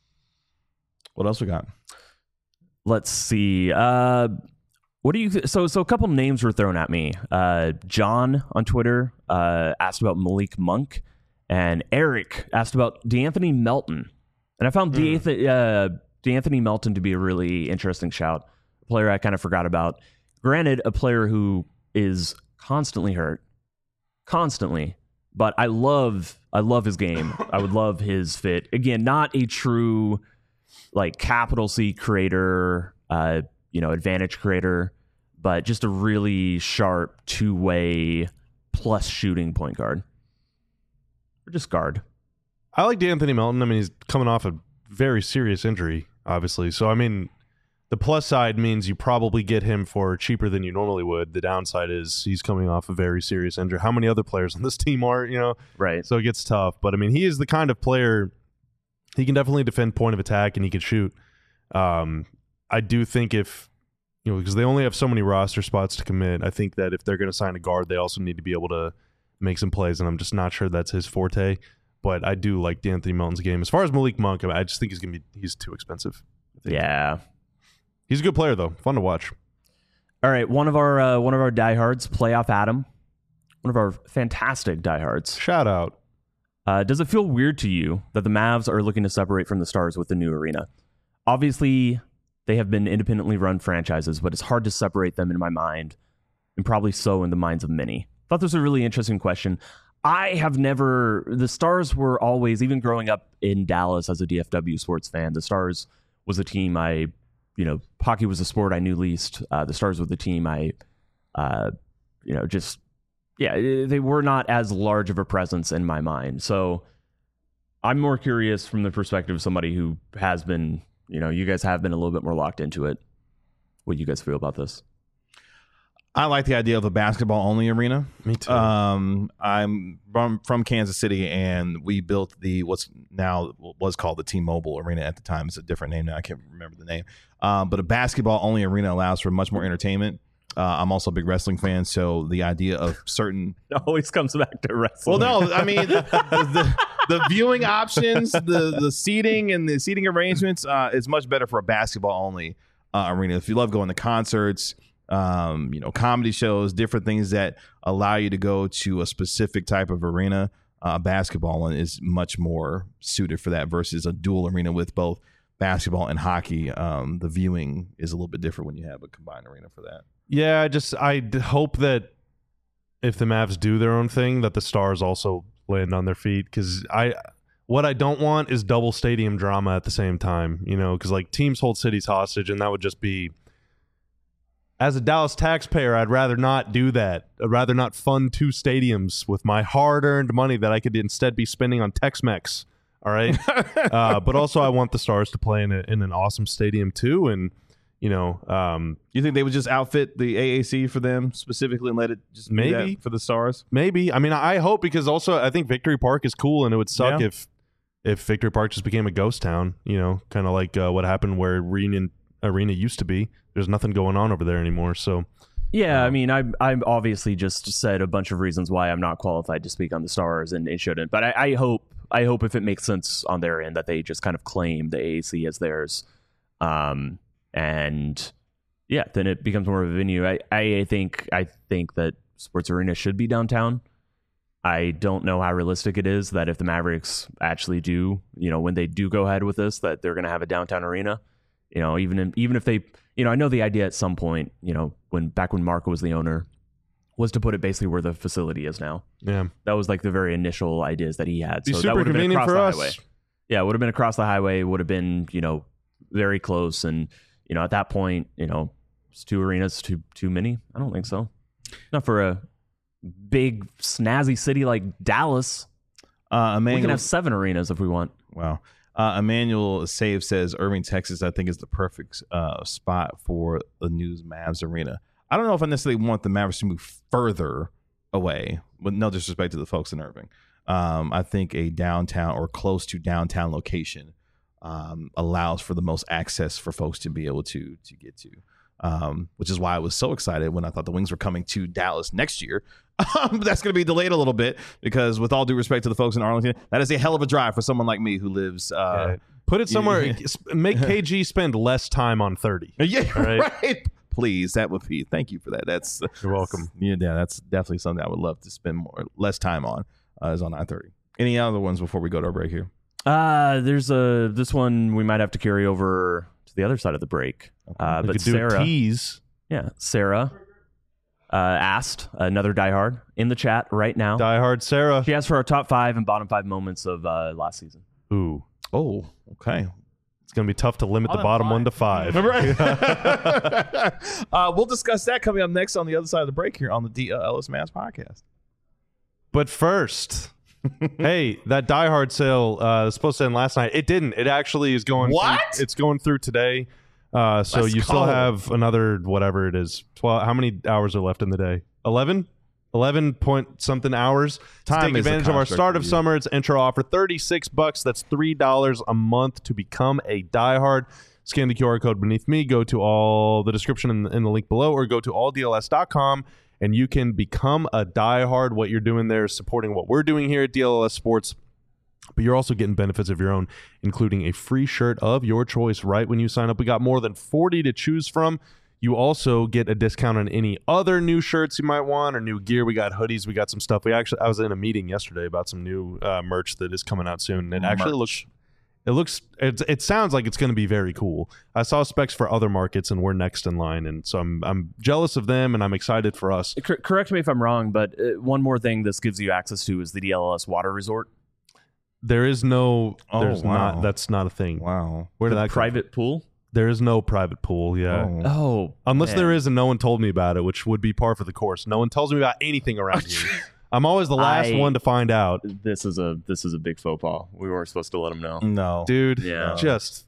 What else we got? Let's see. What do you? So a couple names were thrown at me. John on Twitter asked about Malik Monk, and Eric asked about DeAnthony Melton. And I found DeAnthony Melton to be a really interesting shout. A player I kind of forgot about. Granted, a player who is constantly hurt, but I love his game. I would love his fit. Again, not a true capital C creator, advantage creator, but just a really sharp two-way plus shooting point guard. Or just guard. I like DeAnthony Melton. I mean, he's coming off a very serious injury, obviously. So, I mean, the plus side means you probably get him for cheaper than you normally would. The downside is he's coming off a very serious injury. How many other players on this team are, Right. So it gets tough. But, I mean, he is the kind of player, he can definitely defend point of attack and he can shoot. I do think because they only have so many roster spots to commit, I think that if they're going to sign a guard, they also need to be able to make some plays, and I'm just not sure that's his forte. But I do like DeAnthony Melton's game. As far as Malik Monk, I just think he's too expensive. Yeah. He's a good player though, fun to watch. All right, one of our diehards, Playoff Adam, one of our fantastic diehards. Shout out. Does it feel weird to you that the Mavs are looking to separate from the Stars with the new arena? Obviously, they have been independently run franchises, but it's hard to separate them in my mind, and probably so in the minds of many. Thought this was a really interesting question. The Stars were always, even growing up in Dallas as a DFW sports fan, the Stars was a team hockey was a sport I knew least. The Stars were the team they were not as large of a presence in my mind. So I'm more curious from the perspective of somebody who has been, you guys have been a little bit more locked into it. What do you guys feel about this? I like the idea of a basketball-only arena. Me too. I'm from Kansas City, and we built was called the T-Mobile Arena at the time. It's a different name now. I can't remember the name. But a basketball-only arena allows for much more entertainment. I'm also a big wrestling fan, so the idea of certain it always comes back to wrestling. Well, no, I mean the viewing options, the seating and the seating arrangements is much better for a basketball-only arena. If you love going to concerts, comedy shows, different things that allow you to go to a specific type of arena, basketball one is much more suited for that versus a dual arena with both basketball and hockey. The viewing is a little bit different when you have a combined arena for that. Yeah, I hope that if the Mavs do their own thing, that the Stars also land on their feet, because what I don't want is double stadium drama at the same time, because like teams hold cities hostage, and that would just be, as a Dallas taxpayer, I'd rather not do that. I'd rather not fund two stadiums with my hard-earned money that I could instead be spending on Tex-Mex. All right, but also I want the Stars to play in an awesome stadium too, and you think they would just outfit the AAC for them specifically and let it just be maybe that for the Stars? Maybe. I mean, I hope, because also I think Victory Park is cool, and it would suck if Victory Park just became a ghost town. Kind of like what happened where Reunion Arena used to be. There's nothing going on over there anymore. So yeah, I mean, I'm obviously just said a bunch of reasons why I'm not qualified to speak on the Stars, and it shouldn't. But I hope if it makes sense on their end that they just kind of claim the AAC as theirs. And yeah, then it becomes more of a venue. I think that Sports Arena should be downtown. I don't know how realistic it is that if the Mavericks actually do, when they do go ahead with this, that they're going to have a downtown arena. Even if they, I know the idea at some point, when Marco was the owner, was to put it basically where the facility is now. Yeah, that was like the very initial ideas that he had. So that super would have been convenient across for the us. highway. Yeah, it would have been across the highway. Would have been very close, and at that point, it's two arenas too many. I don't think so. Not for a big snazzy city like Dallas. We can have 7 arenas if we want. Wow. Emmanuel Save says Irving, Texas, I think is the perfect spot for the new Mavs arena. I don't know if I necessarily want the Mavericks to move further away, with no disrespect to the folks in Irving. I think a downtown or close to downtown location allows for the most access for folks to be able to get to, which is why I was so excited when I thought the Wings were coming to Dallas next year. That's going to be delayed a little bit because, with all due respect to the folks in Arlington, that is a hell of a drive for someone like me who lives. Put it somewhere. Make KG spend less time on 30. Yeah, right. Please, that would be. Thank you for that. You're welcome. Yeah, that's definitely something I would love to spend less time on. Is on I-30. Any other ones before we go to our break here? There's this one we might have to carry over to the other side of the break. Okay. But Sarah, tease. Yeah, Sarah asked, another diehard in the chat right now. Diehard Sarah. She asked for our top 5 and bottom 5 moments of last season. Ooh. Oh, okay. It's going to be tough to limit the bottom 1 to 5. Right. We'll discuss that coming up next on the other side of the break here on the DLS Mavs podcast. But first, hey, that Die Hard sale was supposed to end last night. It didn't. It actually is going. What? It's going through today. So you still have another whatever it is. 12. How many hours are left in the day? 11 point something hours. Time take advantage of our start of summer. It's intro offer, $36. That's $3 a month to become a diehard. Scan the QR code beneath me. Go to all the description in the link below, or go to alldls.com. And you can become a diehard. What you're doing there is supporting what we're doing here at DLS Sports. But you're also getting benefits of your own, including a free shirt of your choice right when you sign up. We got more than 40 to choose from. you also get a discount on any other new shirts you might want or new gear. We got hoodies. We got some stuff. I was in a meeting yesterday about some new merch that is coming out soon. It actually it sounds like it's going to be very cool. I saw specs for other markets, and we're next in line, and so I'm jealous of them, and I'm excited for us. Correct me if I'm wrong, but one more thing this gives you access to is the DLLS Water Resort. There is no. Oh, wow. That's not a thing. Wow. Where did that come from? Private pool? There is no private pool. Yeah. Oh, Unless man. there is, and no one told me about it, which would be par for the course. No one tells me about anything around here. I'm always the last one to find out. This is a big faux pas. We weren't supposed to let him know. No. Dude, Yeah. just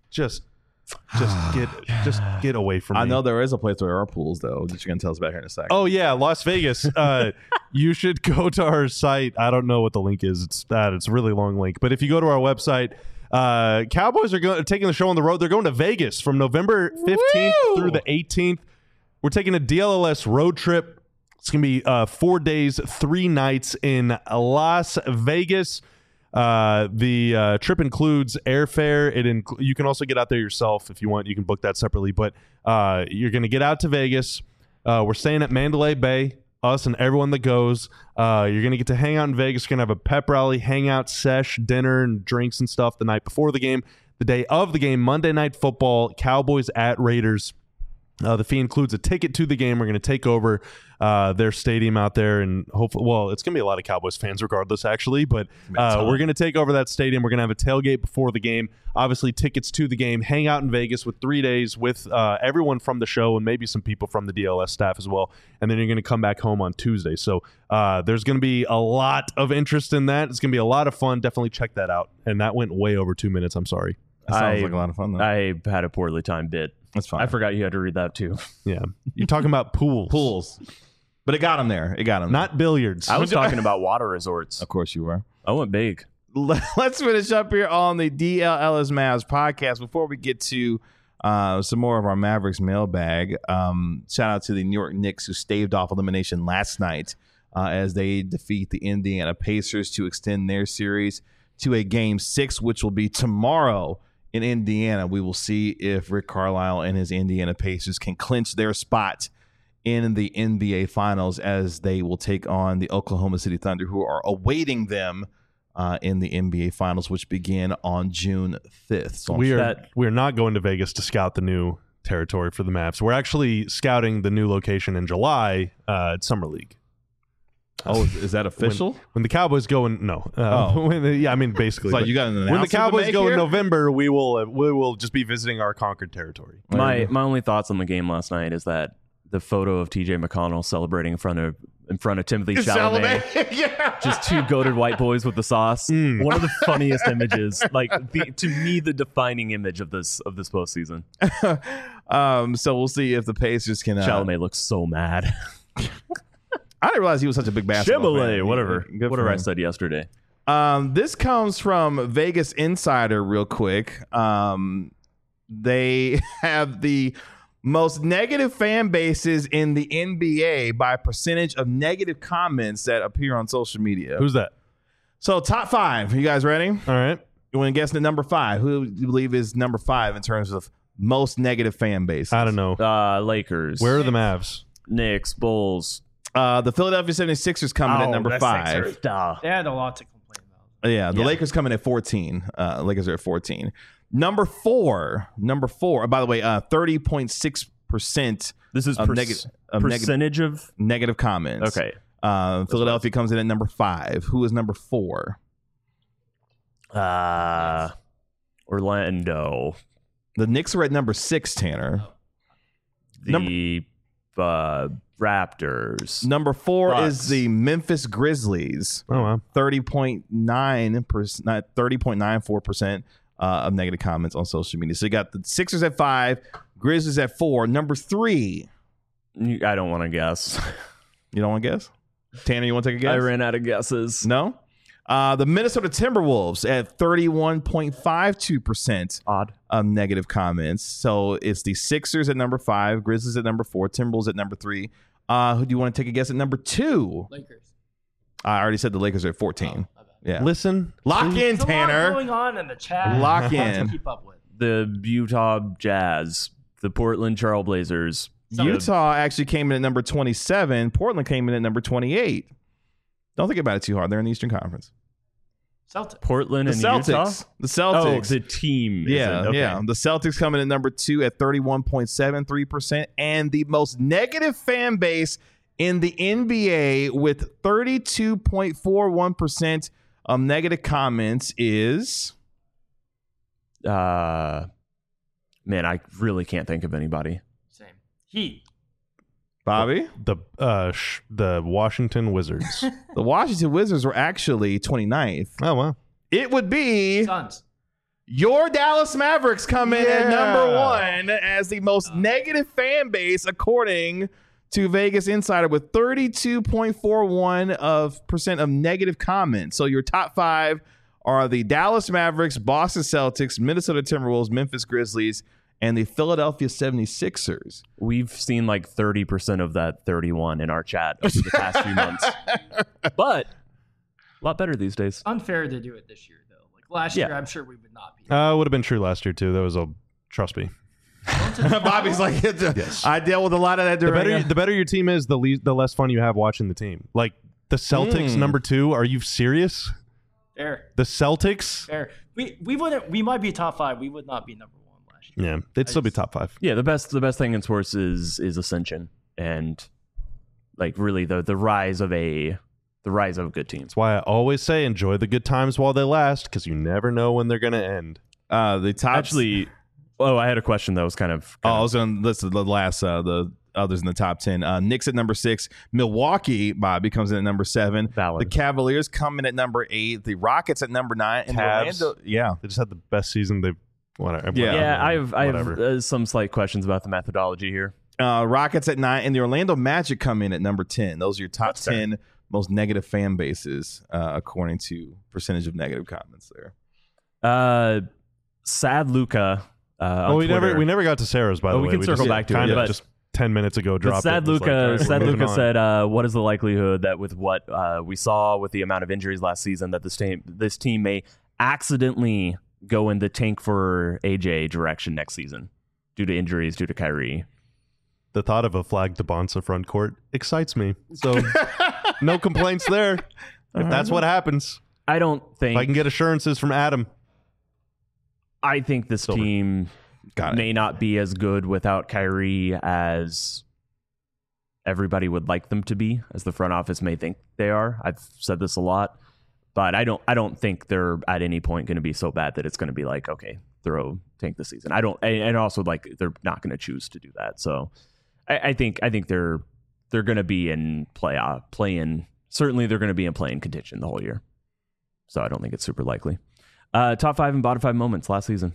get away from me. I know there is a place where there are pools, though, that you're going to tell us about here in a second. Oh yeah, Las Vegas. You should go to our site. I don't know what the link is. It's a really long link. But if you go to our website, Cowboys are taking the show on the road. They're going to Vegas from November 15th through the 18th. We're taking a DLLS road trip. It's going to be 4 days, 3 nights in Las Vegas. The trip includes airfare. You can also get out there yourself if you want. You can book that separately. But you're going to get out to Vegas. We're staying at Mandalay Bay, us and everyone that goes. You're going to get to hang out in Vegas. You're going to have a pep rally, hangout, sesh, dinner, and drinks and stuff the night before the game. The day of the game, Monday Night Football, Cowboys at Raiders. The fee includes a ticket to the game. We're going to take over their stadium out there, and hopefully, well, it's going to be a lot of Cowboys fans regardless, actually, but we're going to take over that stadium. We're going to have a tailgate before the game, obviously tickets to the game, hang out in Vegas with 3 days with everyone from the show and maybe some people from the DLS staff as well, and then you're going to come back home on Tuesday. So there's going to be a lot of interest in that. It's going to be a lot of fun. Definitely check that out. And that went way over 2 minutes. I'm sorry. That sounds like a lot of fun, though. I had a poorly timed bit. That's fine. I forgot you had to read that too. Yeah. You're talking about pools. Pools. But it got him there. It got him. Not billiards. I was talking about water resorts. Of course you were. I went big. Let's finish up here on the DLLS Mavs podcast. Before we get to some more of our Mavericks mailbag, shout out to the New York Knicks who staved off elimination last night as they defeat the Indiana Pacers to extend their series to a Game 6, which will be tomorrow in Indiana. We will see if Rick Carlisle and his Indiana Pacers can clinch their spot in the NBA Finals as they will take on the Oklahoma City Thunder, who are awaiting them in the NBA Finals, which begin on June 5th. So we are not going to Vegas to scout the new territory for the Mavs. We're actually scouting the new location in July at Summer League. Oh, is that official? When the Cowboys go in, no. I mean, basically. It's like you got an when the announcement to Cowboys make go here? in November, we will just be visiting our conquered territory. My only thoughts on the game last night is that the photo of TJ McConnell celebrating in front of Timothy Chalamet, Yeah. just two goated white boys with the sauce. One of the funniest images, to me, the defining image of this postseason. So we'll see if the Pacers can. Chalamet looks so mad. I didn't realize he was such a big basketball fan. Chalamet, whatever for I him. said yesterday. This comes from Vegas Insider real quick. They have the most negative fan bases in the NBA by percentage of negative comments that appear on social media. Who's that? So top 5. You guys ready? All right. You want to guess the number 5? Who do you believe is number 5 in terms of most negative fan bases? I don't know. Lakers. Where are the Mavs? Knicks, Bulls. The Philadelphia 76ers coming at number 5. They had a lot to complain about. Yeah, the Lakers coming at 14. Lakers are at 14. Number 4. By the way, 30.6%. This is percentage of negative comments. Okay. Philadelphia comes in at number 5. Who is number 4? Orlando. The Knicks are at number 6. Tanner. The Raptors. Number 4 Bucks. is the Memphis Grizzlies. Oh, wow. 30.94% of negative comments on social media. So you got the Sixers at 5, Grizzlies at 4. Number 3. I don't want to guess. You don't want to guess? Tanner, you want to take a guess? I ran out of guesses. No? The Minnesota Timberwolves at 31.52% Odd. of negative comments. So it's the Sixers at number 5, Grizzlies at number 4, Timberwolves at number 3. Who do you want to take a guess at number 2? Lakers. I already said the Lakers are at 14. Yeah. Listen. Lock in, There's a lot Tanner. going on in the chat. Lock To in. keep up with. The Utah Jazz. The Portland Trailblazers. Utah actually came in at number 27. Portland came in at number 28. Don't think about it too hard. They're in the Eastern Conference. Celtics. Portland The and Celtics. Utah? The Celtics. Oh, the team. Yeah, Okay. yeah. The Celtics coming in number 2 at 31.73%, and the most negative fan base in the NBA with 32.41% of negative comments is. Man, I really can't think of anybody. Same. Heat. Bobby? The Washington Wizards. The Washington Wizards were actually 29th. Oh wow. It would be Suns. your Dallas Mavericks come in at Yeah. number 1 as the most negative fan base, according to Vegas Insider, with 32.41% of negative comments. So your top 5 are the Dallas Mavericks, Boston Celtics, Minnesota Timberwolves, Memphis Grizzlies, and the Philadelphia 76ers. We've seen like 30% of that 31 in our chat over the past few months. But a lot better these days. Unfair to do it this year, though. Like last year, I'm sure we would not be. Would have been true last year too. That was trust me. Bobby's like, Yes. I dealt with a lot of that during. The better your team is, the less fun you have watching the team. Like the Celtics, number 2. Are you serious? Fair. The Celtics? Fair. We wouldn't. We might be top 5. We would not be number 1 last year. Yeah, they'd still be top 5. Yeah, the best thing in sports is ascension and like really the rise of a good team. That's why I always say enjoy the good times while they last, because you never know when they're gonna end. The top. Actually, I had a question that was kind of I was going to list the last, the others in the top 10. Knicks at number 6. Milwaukee, Bobby, comes in at number 7. Valid. The Cavaliers come in at number 8. The Rockets at number 9. And Cavs. Orlando, They just had the best season they've. Whatever. yeah. I have Whatever. some slight questions about the methodology here. Rockets at 9. And the Orlando Magic come in at number 10. Those are your top 10 most negative fan bases, according to percentage of negative comments there. Sad Luca. we never got to Sarah's, by the way. We can circle back to it, kind of but- just 10 minutes ago But dropped Sad it. It was like, Luca, all right, we're Sad moving Luca on. said, "What is the likelihood that with what we saw with the amount of injuries last season, that this team may accidentally go in the tank for AJ direction next season due to injuries, due to Kyrie?" The thought of a flagged Bonsa front court excites me. So no complaints there. If that's what happens, I don't if think. I can get assurances from Adam. I think this Silver. team may not be as good without Kyrie as everybody would like them to be, as the front office may think they are. I've said this a lot, but I don't think they're at any point going to be so bad that it's going to be like, okay, tank this season. And also like they're not going to choose to do that. So I think they're going to be in play-in. Certainly they're going to be in play-in contention the whole year. So I don't think it's super likely. Top 5 and bottom 5 moments last season.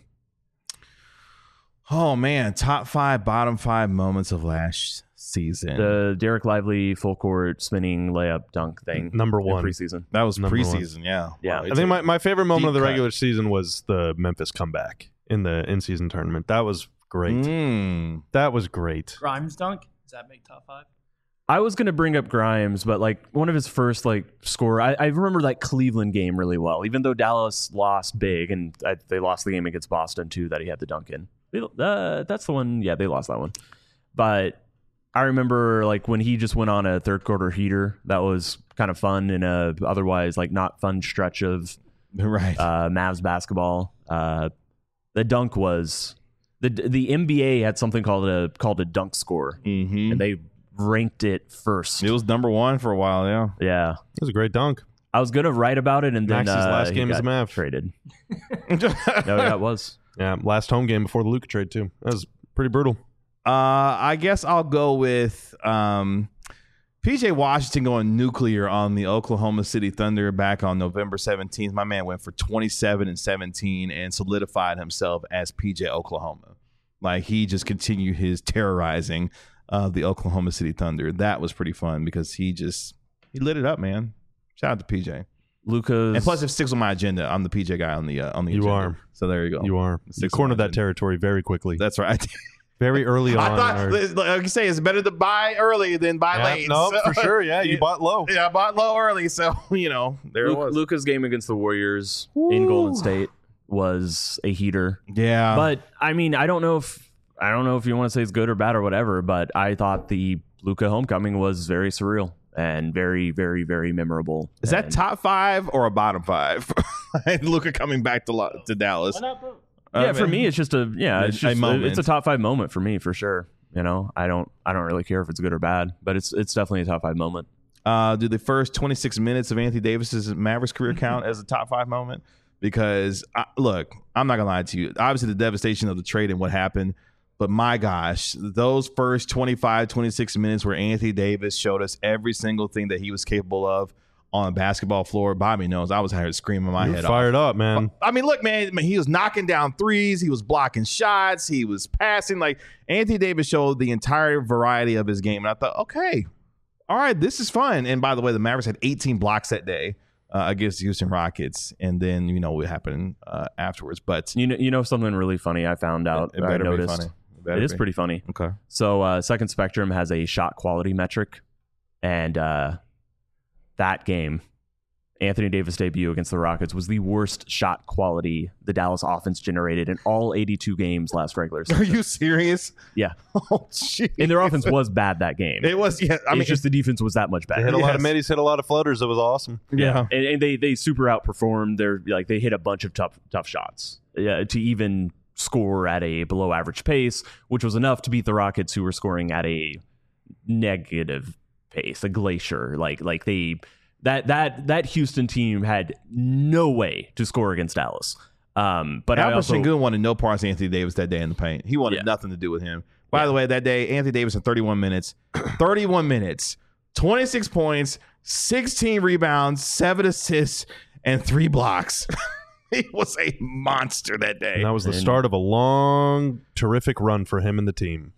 Oh, man. Top 5, bottom 5 moments of last season. The Derek Lively full court spinning layup dunk thing. Number in 1. preseason. That was Number one. preseason, yeah. Yeah. Wow, I think my favorite moment of the deep cut. regular season was the Memphis comeback in the in-season tournament. That was great. That was great. Grimes dunk. Does that make top 5? I was going to bring up Grimes, but like one of his first score, I remember that Cleveland game really well, even though Dallas lost big and they lost the game against Boston too that he had the dunk in. That's the one. Yeah, they lost that one. But I remember like when he just went on a third quarter heater, that was kind of fun in a otherwise like not fun stretch of Right. Mavs basketball. The dunk was the NBA had something called a dunk score, Mm-hmm. and they ranked it first. It was number 1 for a while, yeah. Yeah, It was a great dunk. I was gonna write about it, and then Maxey's last he game as got a Mav. traded. No, yeah, it was. Yeah, last home game before the Luka trade too. That was pretty brutal. I guess I'll go with PJ Washington going nuclear on the Oklahoma City Thunder back on November 17th. My man went for 27 and 17 and solidified himself as PJ Oklahoma. Like he just continued his terrorizing of the Oklahoma City Thunder. That was pretty fun because he lit it up, man. Shout out to PJ. Lucas, And plus, it sticks on my agenda. I'm the PJ guy on the You agenda. are. So there you go. You are. You Six cornered that margin. territory very quickly. That's right. Very early on. I thought, like you say, it's better to buy early than buy Yeah, late. no, So- for sure. Yeah, you bought low. Yeah, I bought low early, so there it was. Luca's game against the Warriors in Golden State was a heater. Yeah, But I mean, I don't know if I don't know if you want to say it's good or bad or whatever, but I thought the Luka homecoming was very surreal and very, very, very memorable. Is that top 5 or a bottom 5? Luka coming back to Dallas. Why not both? Yeah, for me, it's just a moment. It's a top 5 moment for me for sure. You know, I don't really care if it's good or bad, but it's definitely a top 5 moment. Do the first 26 minutes of Anthony Davis's Mavericks career count as a top 5 moment? Because look, I'm not gonna lie to you. Obviously, the devastation of the trade and what happened, but my gosh, those first 25, 26 minutes where Anthony Davis showed us every single thing that he was capable of on a basketball floor. Bobby knows I was here screaming my head off. Fired up, man. I mean, look, man, he was knocking down threes. He was blocking shots. He was passing. Like, Anthony Davis showed the entire variety of his game. And I thought, okay, all right, this is fun. And by the way, the Mavericks had 18 blocks that day against the Houston Rockets. And then, you know, what happened afterwards. But you know something really funny I found out. it I better noticed. be funny. It is pretty funny. Okay. So Second Spectrum has a shot quality metric, and that game, Anthony Davis' debut against the Rockets, was the worst shot quality the Dallas offense generated in all 82 games last regular season. Are you serious? Yeah. Oh, jeez. And their offense was bad that game. It was, yeah. I mean, it's just the defense was that much They better. hit a lot of Yes. middies, hit a lot of floaters. It was awesome. yeah. And they super outperformed. They hit a bunch of tough shots to even score at a below average pace, which was enough to beat the Rockets, who were scoring at a negative pace, a glacier. That Houston team had no way to score against Dallas. But Alperen Sengun wanted no parts of Anthony Davis that day in the paint. He wanted nothing to do with him. By the way, that day, Anthony Davis in 31 minutes, 26 points, 16 rebounds, 7 assists, and 3 blocks. He was a monster that day. And that was the start of a long, terrific run for him and the team.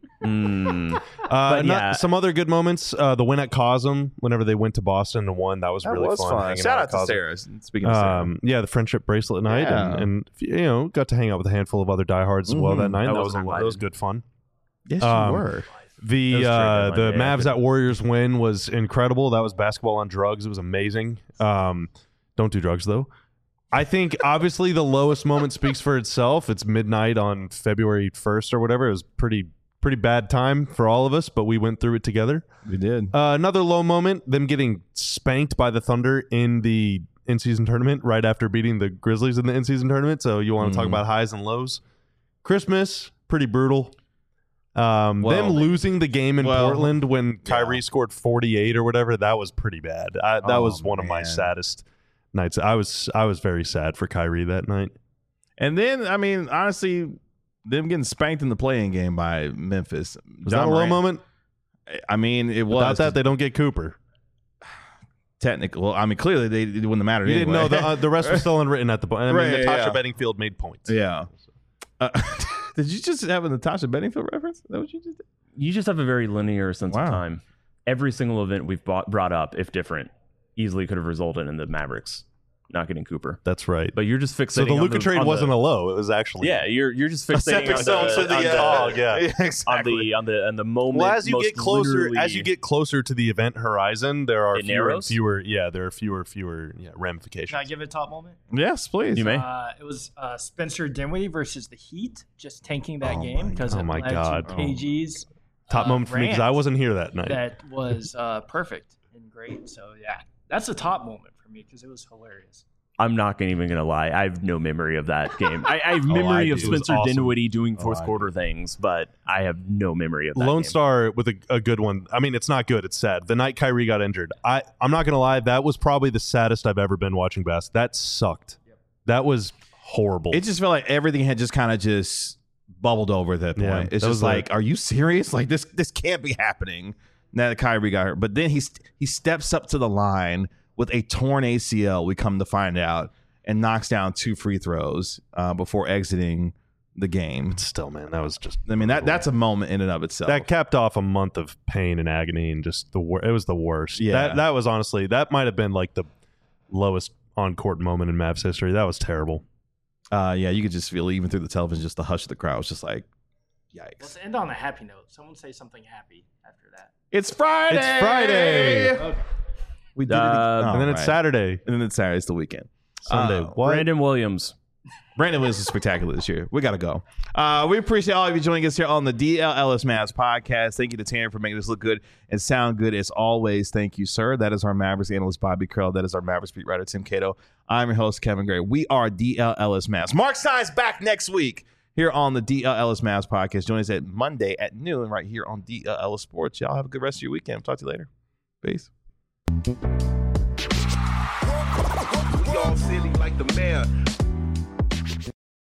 Some other good moments. The win at Cosm, whenever they went to Boston and won, that was really fun. hanging Shout out at to Cosm. Sarah. Speaking of Sarah. Yeah, the friendship bracelet night, Yeah. and you know, got to hang out with a handful of other diehards as well that night. I That was wasn't that was good fun. Yes, you were. The That was true, the yeah, Mavs at Warriors win was incredible. That was basketball on drugs. It was amazing. Don't do drugs though. I think obviously the lowest moment speaks for itself. It's midnight on February 1st or whatever. It was pretty bad time for all of us, but we went through it together. We did. Another low moment, them getting spanked by the Thunder in the in-season tournament right after beating the Grizzlies in the in-season tournament. So you want to talk about highs and lows. Christmas, pretty brutal. Them losing the game in Portland when Kyrie scored 48 or whatever, that was pretty bad. That was one of my saddest nights. I was very sad for Kyrie that night. And then, I mean, honestly, them getting spanked in the play-in game by Memphis. Was that a low moment? I mean, it was. Without that, they don't get Cooper. Technical. Well, I mean, clearly it wouldn't have mattered You anyway. didn't know the rest was still unwritten at the point. I mean, Right, Natasha yeah. Bedingfield made points. Yeah. Did you just have a Natasha Bedingfield reference? Is that what you just did? You just have a very linear sense Wow. of time. Every single event we've brought up, if different, easily could have resulted in the Mavericks not getting Cooper. That's right. But you're just fixating. So the on Luka trade wasn't a low. It was actually you're just fixating stepping on stone to the dog, yeah. exactly. on the moment. Well, as you get closer, literally- closer to the event horizon, there are It fewer and narrows? fewer. Yeah, there are fewer ramifications. Can I give it a top moment? Yes, please. You may. It was Spencer Dinwiddie versus the Heat, just tanking that Oh game because God. it Oh my led God. to KG's Top moment for me because I rant wasn't here that night. That was perfect and great. So yeah, that's the top moment for me because it was hilarious. I'm not even gonna lie. I have no memory of that game. I have memory I of do. It was Spencer awesome. Dinwiddie doing fourth I quarter things, but I have no memory of that Lone game. Star with a good one. I mean, it's not good. It's sad. The night Kyrie got injured, I'm not gonna lie. That was probably the saddest I've ever been watching basketball. That sucked. That was horrible. It just felt like everything had just kind of just bubbled over at that point. Yeah, It's that just was like, are you serious? Like this can't be happening now that Kyrie got hurt. But then he steps up to the line with a torn ACL, we come to find out, and knocks down 2 free throws before exiting the game. Still, man, that was just. I mean, that's a moment in and of itself. That capped off a month of pain and agony and just it was the worst. Yeah. That was honestly, that might have been like the lowest on-court moment in Mavs history. That was terrible. Yeah, you could just feel even through the television, just the hush of the crowd was just like, yikes. Let's end on a happy note. Someone say something happy after that. It's Friday. It's Friday. Okay. We did it. And then it's Saturday, And then it's Saturday. It's the weekend. Sunday. What? Brandon Williams. Brandon Williams was spectacular this year. We got to go. We appreciate all of you joining us here on the DL Ellis Mavs podcast. Thank you to Tanner for making us look good and sound good as always. Thank you, sir. That is our Mavericks analyst, Bobby Curl. That is our Mavericks beat writer, Tim Cato. I'm your host, Kevin Gray. We are DL Ellis Mavs. Mark Stein's back next week here on the DL Ellis Mavs podcast. Join us at Monday at noon right here on DL Ellis Sports. Y'all have a good rest of your weekend. Talk to you later. Peace. We all silly like the mayor.